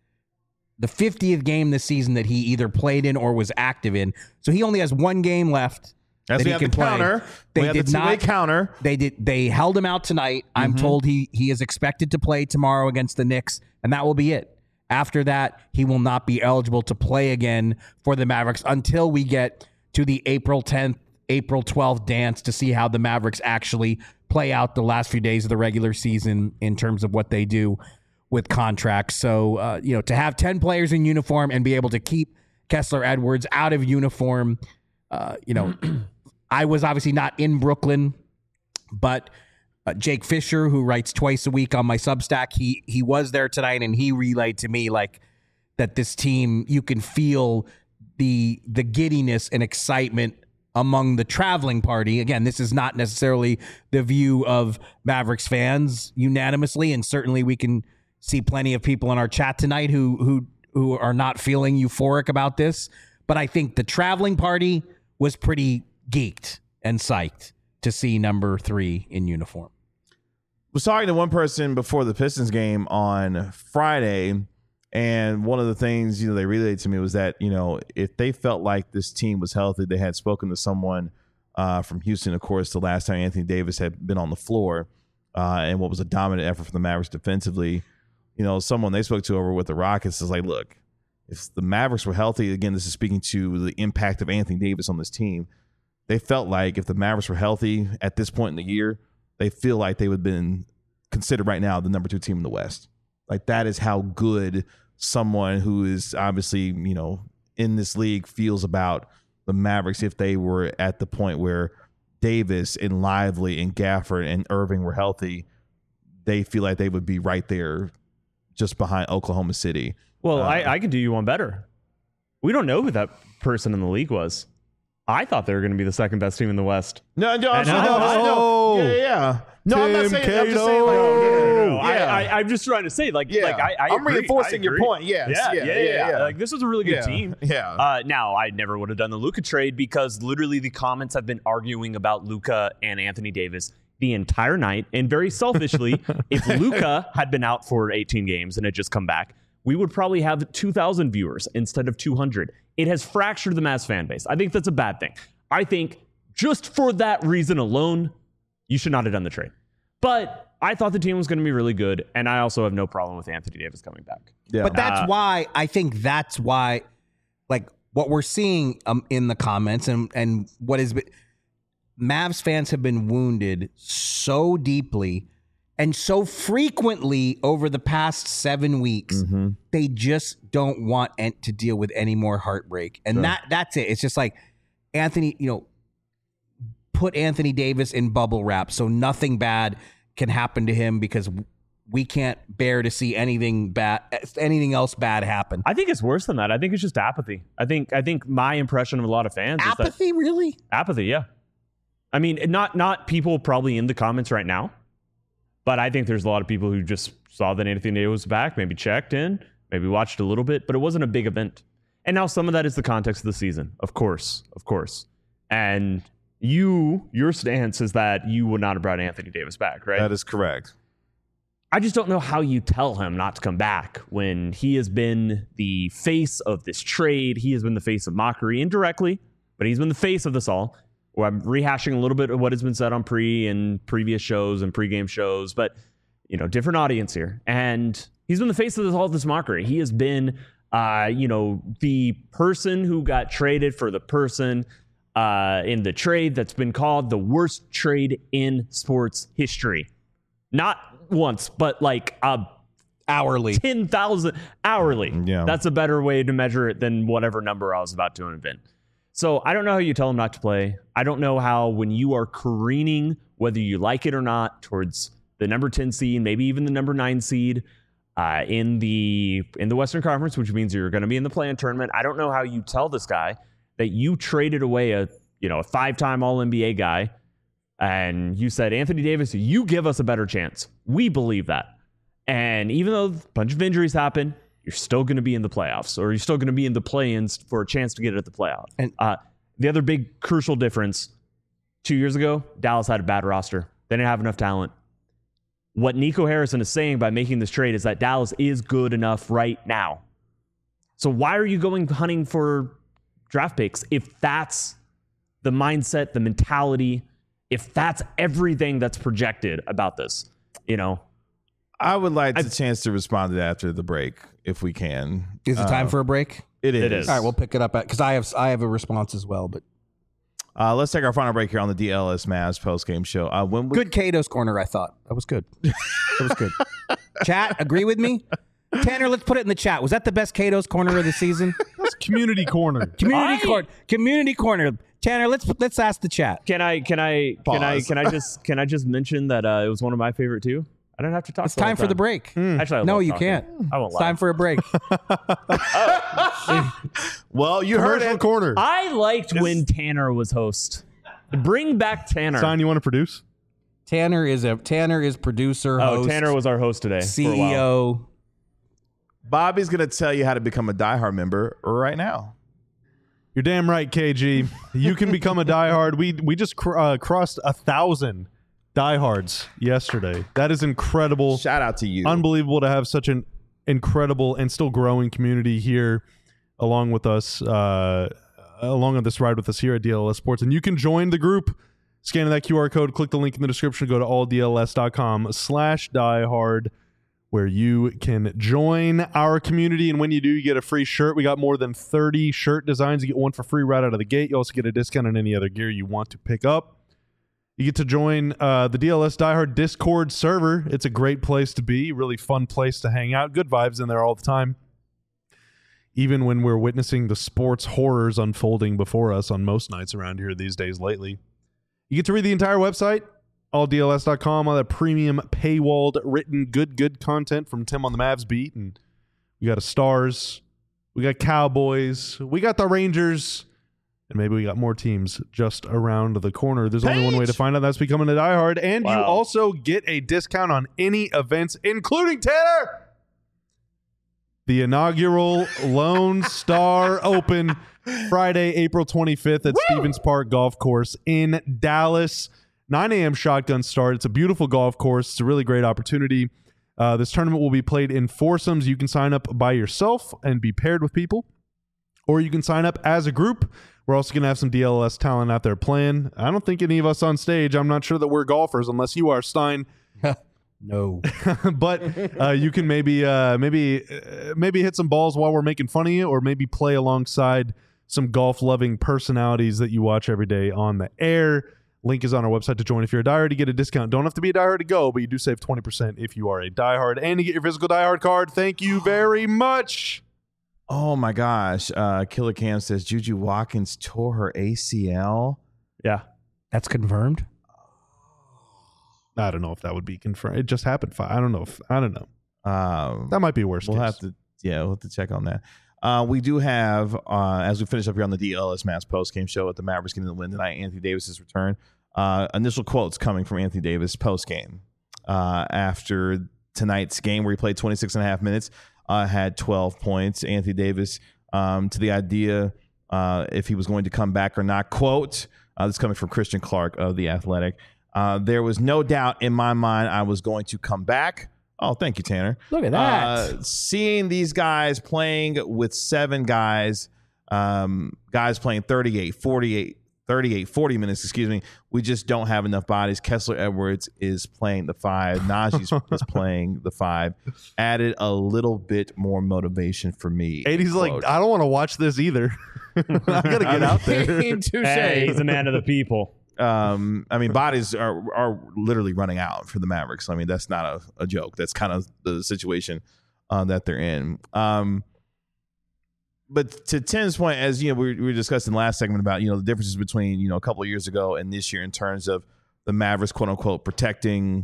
game this season that he either played in or was active in. So he only has one game left. As we have the counter. They did not counter. They held him out tonight. I'm told he is expected to play tomorrow against the Knicks, and that will be it. After that, he will not be eligible to play again for the Mavericks until we get to the April 10th, April 12th dance to see how the Mavericks actually play out the last few days of the regular season in terms of what they do with contracts. So, to have 10 players in uniform and be able to keep Kessler Edwards out of uniform, I was obviously not in Brooklyn, but Jake Fisher, who writes twice a week on my Substack, he was there tonight, and he relayed to me that this team, you can feel the giddiness and excitement among the traveling party. Again, this is not necessarily the view of Mavericks fans unanimously, and certainly we can see plenty of people in our chat tonight who are not feeling euphoric about this. But I think the traveling party was pretty geeked and psyched to see number 3 in uniform. Was talking to one person before the Pistons game on Friday, and one of the things they relayed to me was that if they felt like this team was healthy, they had spoken to someone from Houston, of course, the last time Anthony Davis had been on the floor, and what was a dominant effort for the Mavericks defensively. Someone they spoke to over with the Rockets is like, look, if the Mavericks were healthy, again, this is speaking to the impact of Anthony Davis on this team. They felt like if the Mavericks were healthy at this point in the year, they feel like they would have been considered right now the number 2 team in the West. Like that is how good someone who is obviously, in this league feels about the Mavericks if they were at the point where Davis and Lively and Gafford and Irving were healthy. They feel like they would be right there just behind Oklahoma City. Well, I can do you one better. We don't know who that person in the league was. I thought they were going to be the second best team in the West. No. Yeah. No, I'm not Tim saying. I'm just Cato. saying. No. Yeah. I'm just trying to say, I'm agree. reinforcing your point. Yes. Yeah. Like, this was a really good team. Yeah. Now, I never would have done the Luka trade because literally the comments have been arguing about Luka and Anthony Davis the entire night. And very selfishly, if Luka had been out for 18 games and had just come back, we would probably have 2,000 viewers instead of 200. It has fractured the Mavs fan base. I think that's a bad thing. I think just for that reason alone, you should not have done the trade. But I thought the team was going to be really good, and I also have no problem with Anthony Davis coming back. Yeah. But that's why like what we're seeing in the comments and what has been, Mavs fans have been wounded so deeply and so frequently over the past 7 weeks. They just don't want to deal with any more heartbreak, and that's it. It's just like Anthony, put Anthony Davis in bubble wrap so nothing bad can happen to him because we can't bear to see anything else bad happen. I think it's worse than that. I think it's just apathy. I think my impression of a lot of fans is Apathy, really? apathy. Yeah. I mean, not people probably in the comments right now, but I think there's a lot of people who just saw that Anthony Davis was back, maybe checked in, maybe watched a little bit, but it wasn't a big event. And now some of that is the context of the season, of course. And your stance is that you would not have brought Anthony Davis back, right? That is correct. I just don't know how you tell him not to come back when he has been the face of this trade. He has been the face of mockery indirectly, but he's been the face of this all. Well, I'm rehashing a little bit of what has been said on pre and previous shows and pregame shows, but different audience here. And he's been the face of all this mockery. He has been, the person who got traded for the person in the trade that's been called the worst trade in sports history. Not once, but like Hourly. 10,000 hourly. Yeah. That's a better way to measure it than whatever number I was about to invent. So I don't know how you tell him not to play. I don't know how, when you are careening, whether you like it or not, towards the number 10 seed, maybe even the number 9 seed in the Western Conference, which means you're going to be in the play-in tournament. I don't know how you tell this guy that you traded away a 5-time All-NBA guy, and you said, Anthony Davis, you give us a better chance. We believe that. And even though a bunch of injuries happen, you're still going to be in the playoffs, or you're still going to be in the play-ins for a chance to get at the playoff. And the other big crucial difference, 2 years ago, Dallas had a bad roster. They didn't have enough talent. What Nico Harrison is saying by making this trade is that Dallas is good enough right now. So why are you going hunting for draft picks if that's the mindset, the mentality, if that's everything that's projected about this? I would like the chance to respond to that after the break, if we can. Is it time for a break? It is. It is. All right, we'll pick it up because I have a response as well. But let's take our final break here on the DLS Mavs postgame show. Good Cato's corner, I thought. That was good. That was good. Chat, agree with me? Tanner, let's put it in the chat. Was that the best Cato's corner of the season? That's community corner. Community corner. Tanner, let's ask the chat. Can I just mention that it was one of my favorite too? I don't have to talk. It's time for the break. Actually, No, you can't. I won't It's lie. time for a break. Well, you heard Commercial it. corner. I liked when Tanner was host. Bring back Tanner. Sign, you want to produce? Tanner is producer, host, Tanner was our host today. For a while. CEO. Bobby's going to tell you how to become a diehard member right now. You're damn right, KG. You can become a diehard. We just crossed 1,000 diehards yesterday. That is incredible. Shout out to you. Unbelievable to have such an incredible and still growing community here along with us, along on this ride with us here at DLS Sports. And you can join the group. Scan that QR code, click the link in the description, go to alldls.com/diehard, where you can join our community. And when you do, you get a free shirt. We got more than 30 shirt designs. You get one for free right out of the gate. You also get a discount on any other gear you want to pick up. You get to join the DLS Diehard Discord server. It's a great place to be, really fun place to hang out. Good vibes in there all the time. Even when we're witnessing the sports horrors unfolding before us on most nights around here these days lately. You get to read the entire website, alldls.com, all that premium paywalled written good content from Tim on the Mavs beat. And we got a Stars, we got Cowboys, we got the Rangers, and maybe we got more teams just around the corner. There's only one way to find out. That's becoming a diehard. And you also get a discount on any events, including Tanner, the inaugural Lone Star Open, Friday, April 25th at Stevens Park Golf Course in Dallas. 9 a.m. shotgun start. It's a beautiful golf course. It's a really great opportunity. This tournament will be played in foursomes. You can sign up by yourself and be paired with people, or you can sign up as a group. We're also going to have some DLS talent out there playing. I don't think any of us on stage, I'm not sure that we're golfers unless you are, Stein. No. But you can maybe hit some balls while we're making fun of you, or maybe play alongside some golf-loving personalities that you watch every day on the air. Link is on our website to join if you're a diehard to get a discount. Don't have to be a diehard to go, but you do save 20% if you are a diehard. And you get your physical diehard card. Thank you very much. Oh, my gosh. Killer Cam says Juju Watkins tore her ACL. Yeah. That's confirmed? I don't know if that would be confirmed. It just happened. I don't know. That might be worse. We'll have to check on that. We do have, as we finish up here on the DLS Mass post-game show at the Mavericks getting the win tonight, Anthony Davis's return. Initial quotes coming from Anthony Davis post-game after tonight's game where he played 26 and a half minutes, had 12 points. Anthony Davis, to the idea if he was going to come back or not, quote, this is coming from Christian Clark of The Athletic. There was no doubt in my mind I was going to come back. Oh, thank you, Tanner. Look at that. Seeing these guys playing with 7 guys, guys playing 40 minutes, excuse me. We just don't have enough bodies. Kessler Edwards is playing the 5. Najee is playing the 5. Added a little bit more motivation for me. 80's like, I don't want to watch this either. I got to get out there. Hey, he's a man of the people. I mean, bodies are literally running out for the Mavericks. I mean, that's not a joke. That's kind of the situation that they're in. But to Tim's point, as you know, we were discussing last segment about, the differences between, a couple of years ago and this year in terms of the Mavericks, quote unquote, protecting,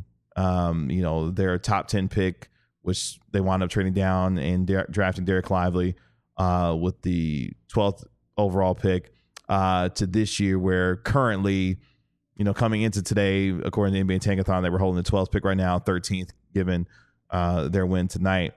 their top 10 pick, which they wound up trading down and drafting Derek Lively with the 12th overall pick. To this year, where currently, coming into today, according to NBA Tankathon, they were holding the 12th pick right now, 13th, given their win tonight.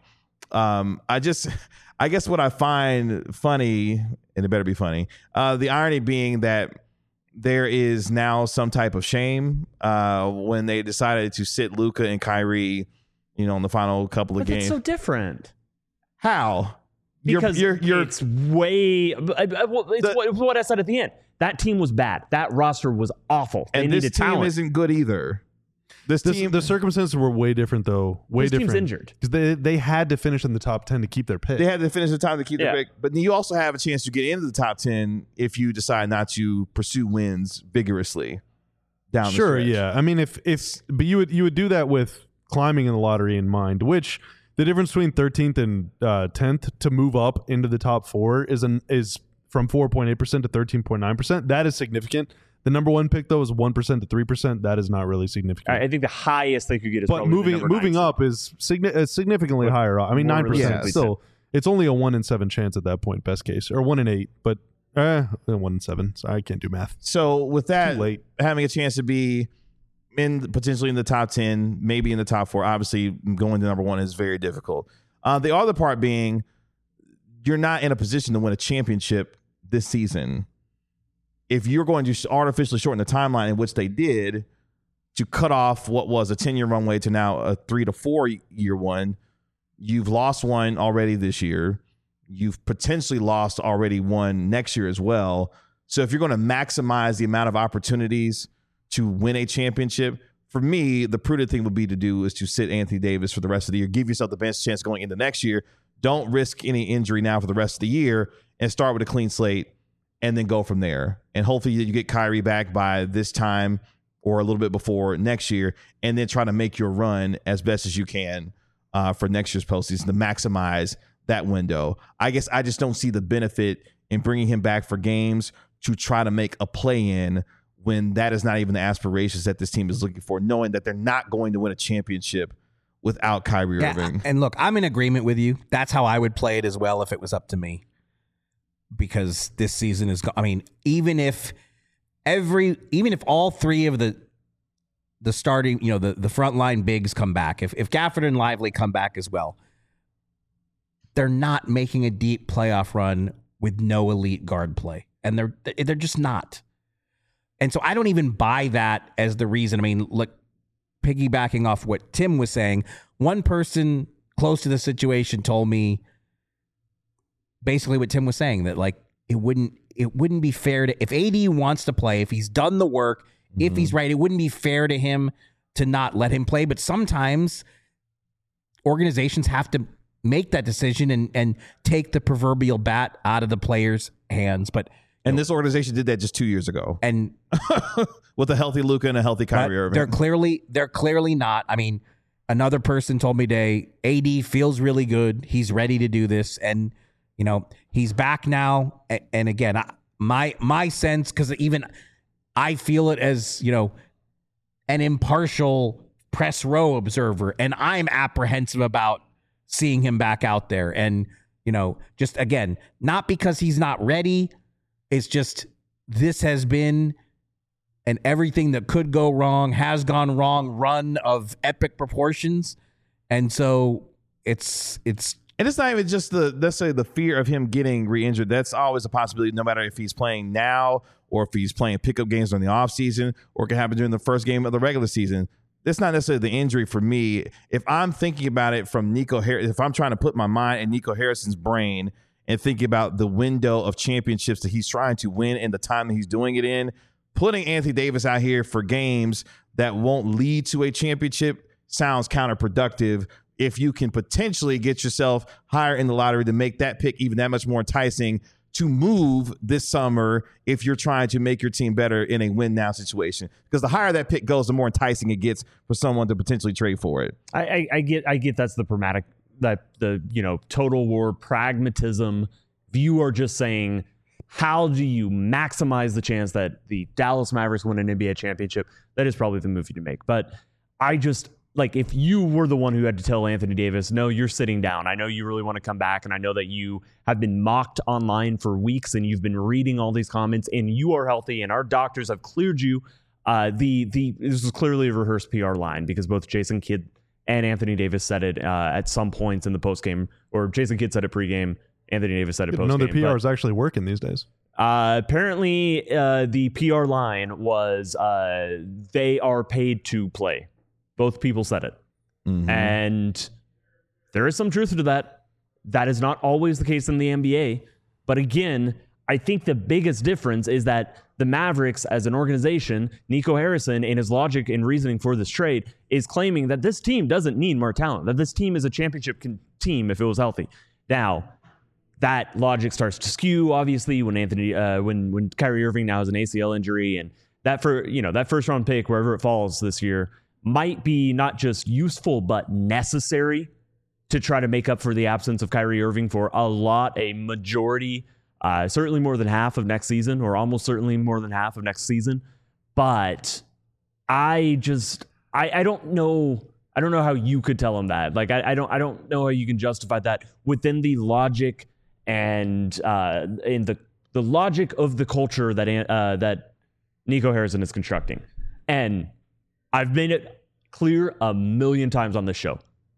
I guess what I find funny, and it better be funny, the irony being that there is now some type of shame when they decided to sit Luka and Kyrie, in the final couple of games. It's so different. How? Because it's way. It's what I said at the end. That team was bad. That roster was awful. And this team isn't good either. The circumstances were way different, though. This team's injured. Because they had to finish in the top 10 to keep their pick. They had to finish the top to keep their pick. But you also have a chance to get into the top 10 if you decide not to pursue wins vigorously down the stretch. Yeah. I mean, but you would do that with climbing in the lottery in mind, which the difference between 13th and 10th to move up into the top 4 is from 4.8% to 13.9%. That is significant. The number 1 pick, though, is 1% to 3%. That is not really significant. I think the highest they could get is but probably moving up is significantly higher. I mean, 9% still. It's only a 1 in 7 chance at that point, best case, or 1 in 8. But 1 in 7. So I can't do math. So with that, having a chance to be potentially in the top 10, maybe in the top 4, obviously going to number 1 is very difficult. The other part being, you're not in a position to win a championship this season. If you're going to artificially shorten the timeline in which they did to cut off what was a 10-year runway to now a 3 to 4 year one, you've lost one already this year. You've potentially lost already one next year as well. So if you're going to maximize the amount of opportunities to win a championship, for me, the prudent thing would be to do is to sit Anthony Davis for the rest of the year. Give yourself the best chance going into next year. Don't risk any injury now for the rest of the year and start with a clean slate and then go from there. And hopefully you get Kyrie back by this time or a little bit before next year, and then try to make your run as best as you can for next year's postseason to maximize that window. I guess I just don't see the benefit in bringing him back for games to try to make a play-in when that is not even the aspirations that this team is looking for, knowing that they're not going to win a championship without Kyrie Irving. And look, I'm in agreement with you. That's how I would play it as well if it was up to me. Because this season is, I mean, even if all three of the starting, the frontline bigs come back, if Gafford and Lively come back as well, they're not making a deep playoff run with no elite guard play, and they're just not. And so I don't even buy that as the reason. I mean, look, piggybacking off what Tim was saying, one person close to the situation told me basically what Tim was saying, that like it wouldn't be fair to, if AD wants to play, if he's done the work, if he's right, it wouldn't be fair to him to not let him play. But sometimes organizations have to make that decision and take the proverbial bat out of the player's hands. And this organization did that just 2 years ago. And with a healthy Luka and a healthy Kyrie Irving. They're clearly not. I mean, another person told me today, AD feels really good. He's ready to do this. And, he's back now. And again, my sense, because even I feel it as, an impartial press row observer, and I'm apprehensive about seeing him back out there. And, just again, not because he's not ready. It's just, this has been an everything that could go wrong, has gone wrong run of epic proportions. And so it's not even just necessarily the fear of him getting re-injured. That's always a possibility, no matter if he's playing now or if he's playing pickup games during the offseason, or it can happen during the first game of the regular season. That's not necessarily the injury for me. If I'm thinking about it from Nico Harrison, if I'm trying to put my mind in Nico Harrison's brain and thinking about the window of championships that he's trying to win and the time that he's doing it in, putting Anthony Davis out here for games that won't lead to a championship sounds counterproductive. If you can potentially get yourself higher in the lottery to make that pick even that much more enticing to move this summer, if you're trying to make your team better in a win now situation, because the higher that pick goes, the more enticing it gets for someone to potentially trade for it. I get that's the pragmatic, that the total war pragmatism. If you are just saying, how do you maximize the chance that the Dallas Mavericks win an NBA championship, that is probably the move you to make. But I just, like, if you were the one who had to tell Anthony Davis, no, you're sitting down, I know you really want to come back, and I know that you have been mocked online for weeks and you've been reading all these comments, and you are healthy and our doctors have cleared you. This was clearly a rehearsed PR line, because both Jason Kidd and Anthony Davis said it at some points in the postgame, or Jason Kidd said it pregame, Anthony Davis said it postgame. No, the PR is actually working these days. Apparently, the PR line was they are paid to play. Both people said it. Mm-hmm. And there is some truth to that. That is not always the case in the NBA. But again, I think the biggest difference is that the Mavericks as an organization, Nico Harrison, in his logic and reasoning for this trade, is claiming that this team doesn't need more talent, that this team is a championship team if it was healthy. Now, that logic starts to skew, obviously, when when Kyrie Irving now has an ACL injury, and that first round pick, wherever it falls this year, might be not just useful, but necessary to try to make up for the absence of Kyrie Irving for a majority, certainly more than half of next season, or almost certainly more than half of next season. But I don't know how you could tell him that. Like, I don't know how you can justify that within the logic and in the logic of the culture that Nico Harrison is constructing. And I've made it clear a million times on this show.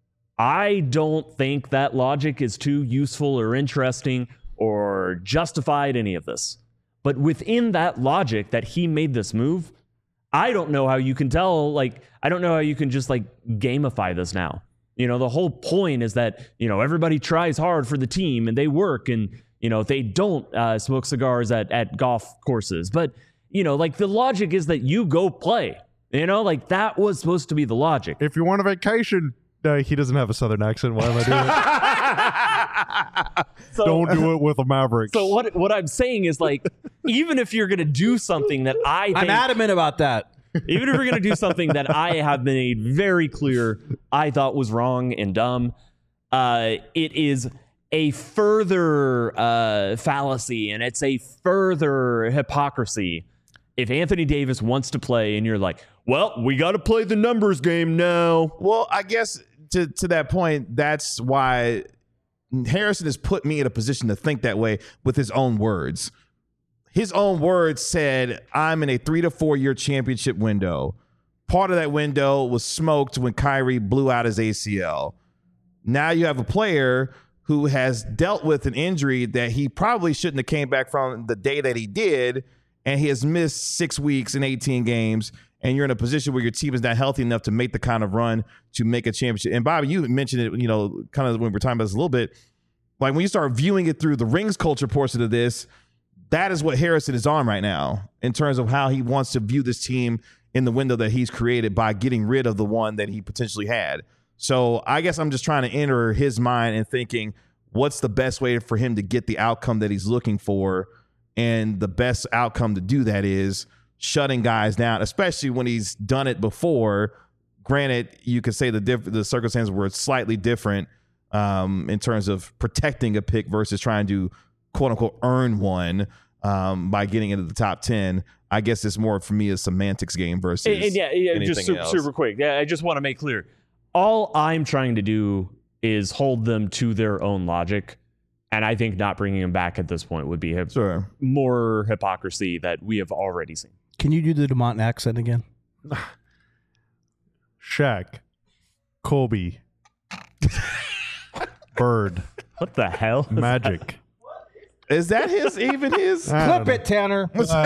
I don't think that logic is too useful or interesting or justified any of this. But within that logic that he made this move, I don't know how you can tell, I don't know how you can just gamify this now. The whole point is that, everybody tries hard for the team and they work, and, they don't smoke cigars at golf courses. But, the logic is that you go play. That was supposed to be the logic. If you want a vacation, he doesn't have a Southern accent. Why am I doing it? Don't do it with the Mavericks. So what I'm saying is, even if you're going to do something that I'm adamant about that. Even if you're going to do something that I have made very clear I thought was wrong and dumb, it is a further fallacy and it's a further hypocrisy. If Anthony Davis wants to play and you're like, well, we got to play the numbers game now. Well, I guess to that point, that's why Harrison has put me in a position to think that way with his own words. His own words said, I'm in a 3 to 4 year championship window. Part of that window was smoked when Kyrie blew out his ACL. Now you have a player who has dealt with an injury that he probably shouldn't have came back from the day that he did, and he has missed 6 weeks and 18 games, and you're in a position where your team is not healthy enough to make the kind of run to make a championship. And Bobby, you mentioned it, kind of when we were talking about this a little bit, like when you start viewing it through the rings culture portion of this, that is what Harrison is on right now in terms of how he wants to view this team in the window that he's created by getting rid of the one that he potentially had. So I guess I'm just trying to enter his mind and thinking, what's the best way for him to get the outcome that he's looking for? And the best outcome to do that is shutting guys down, especially when he's done it before. Granted, you could say the circumstances were slightly different in terms of protecting a pick versus trying to, quote unquote, earn one by getting into the top 10. I guess it's more for me a semantics game versus anything just else. super quick. Yeah, I just want to make clear. All I'm trying to do is hold them to their own logic. And I think not bringing him back at this point would be more hypocrisy that we have already seen. Can you do the DeMont accent again? Shaq, Kobe, Bird, What the hell? Magic. Is that his? Clip it, Tanner.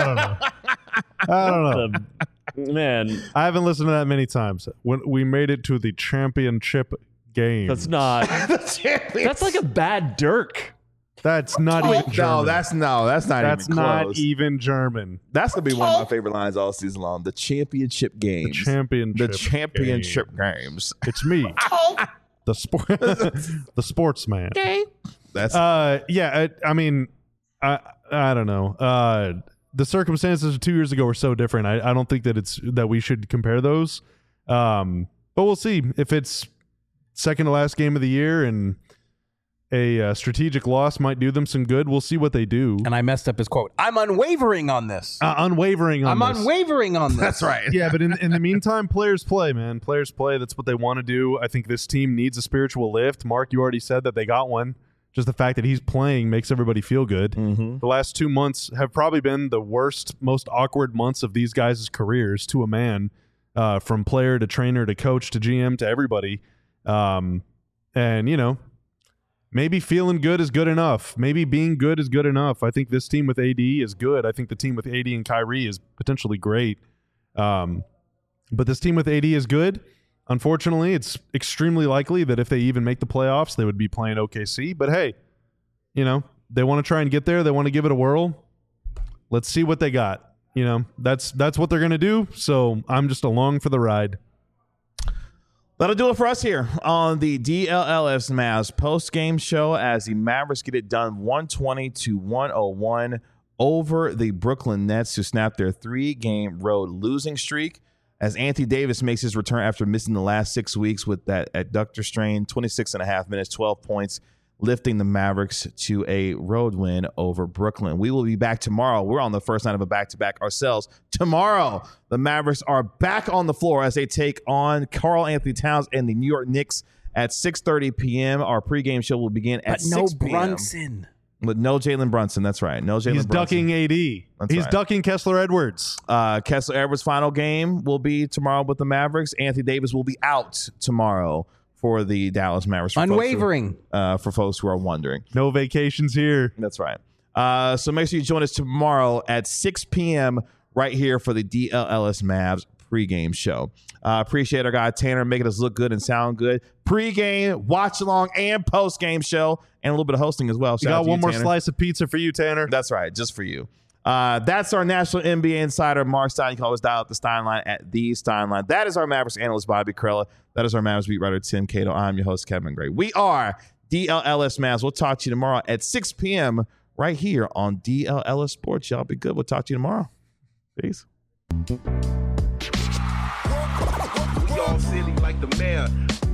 I don't know. Man, I haven't listened to that many times. When we made it to the championship game. that's not. That's like a bad Dirk. That's not even German. That's not That's even not close. even German. That's gonna be one of my favorite lines all season long. The championship games. The championship games. It's me, the sportsman. That's I mean, I don't know. The circumstances of 2 years ago were so different. I don't think that we should compare those. But we'll see if it's second to last game of the year and a strategic loss might do them some good. We'll see what they do. And I messed up his quote. I'm unwavering on this. Unwavering on this. Unwavering on this. That's right. Yeah, but in the meantime, players play, man. Players play. That's what they want to do. I think this team needs a spiritual lift. Mark, you already said that they got one. Just the fact that he's playing makes everybody feel good. Mm-hmm. The last 2 months have probably been the worst, most awkward months of these guys' careers to a man, from player to trainer to coach to GM to everybody. And, maybe feeling good is good enough. Maybe being good is good enough. I think this team with AD is good. I think the team with AD and Kyrie is potentially great. But this team with AD is good. Unfortunately, it's extremely likely that if they even make the playoffs, they would be playing OKC. But hey, they want to try and get there. They want to give it a whirl. Let's see what they got. That's what they're going to do. So I'm just along for the ride. That'll do it for us here on the DLLS Mavs post-game show as the Mavericks get it done 120-101 over the Brooklyn Nets to snap their 3-game road losing streak as Anthony Davis makes his return after missing the last 6 weeks with that adductor strain, 26.5 minutes, 12 points, lifting the Mavericks to a road win over Brooklyn. We will be back tomorrow. We're on the first night of a back-to-back ourselves. Tomorrow, the Mavericks are back on the floor as they take on Karl Anthony Towns and the New York Knicks at 6:30 p.m. Our pregame show will begin at 6 p.m. Brunson. With no Jalen Brunson. That's right. No Jalen He's Brunson. ducking AD. He's right. ducking Kessler Edwards. Kessler Edwards' final game will be tomorrow with the Mavericks. Anthony Davis will be out tomorrow for the Dallas Mavericks. Unwavering. For folks who are wondering. No vacations here. That's right. So make sure you join us tomorrow at 6 p.m. right here for the DLLS Mavs pregame show. Appreciate our guy Tanner making us look good and sound good. Pregame, watch along, and postgame show, and a little bit of hosting as well. We got one more slice of pizza for you, Tanner. That's right, just for you. That's our National NBA Insider, Mark Stein. You can always dial up the Steinline at the Steinline. That is our Mavericks analyst, Bobby Carella. That is our Mavericks beat writer, Tim Cato. I'm your host, Kevin Gray. We are DLLS Mavs. We'll talk to you tomorrow at 6 p.m. right here on DLLS Sports. Y'all be good. We'll talk to you tomorrow. Peace. Strong city like the mayor.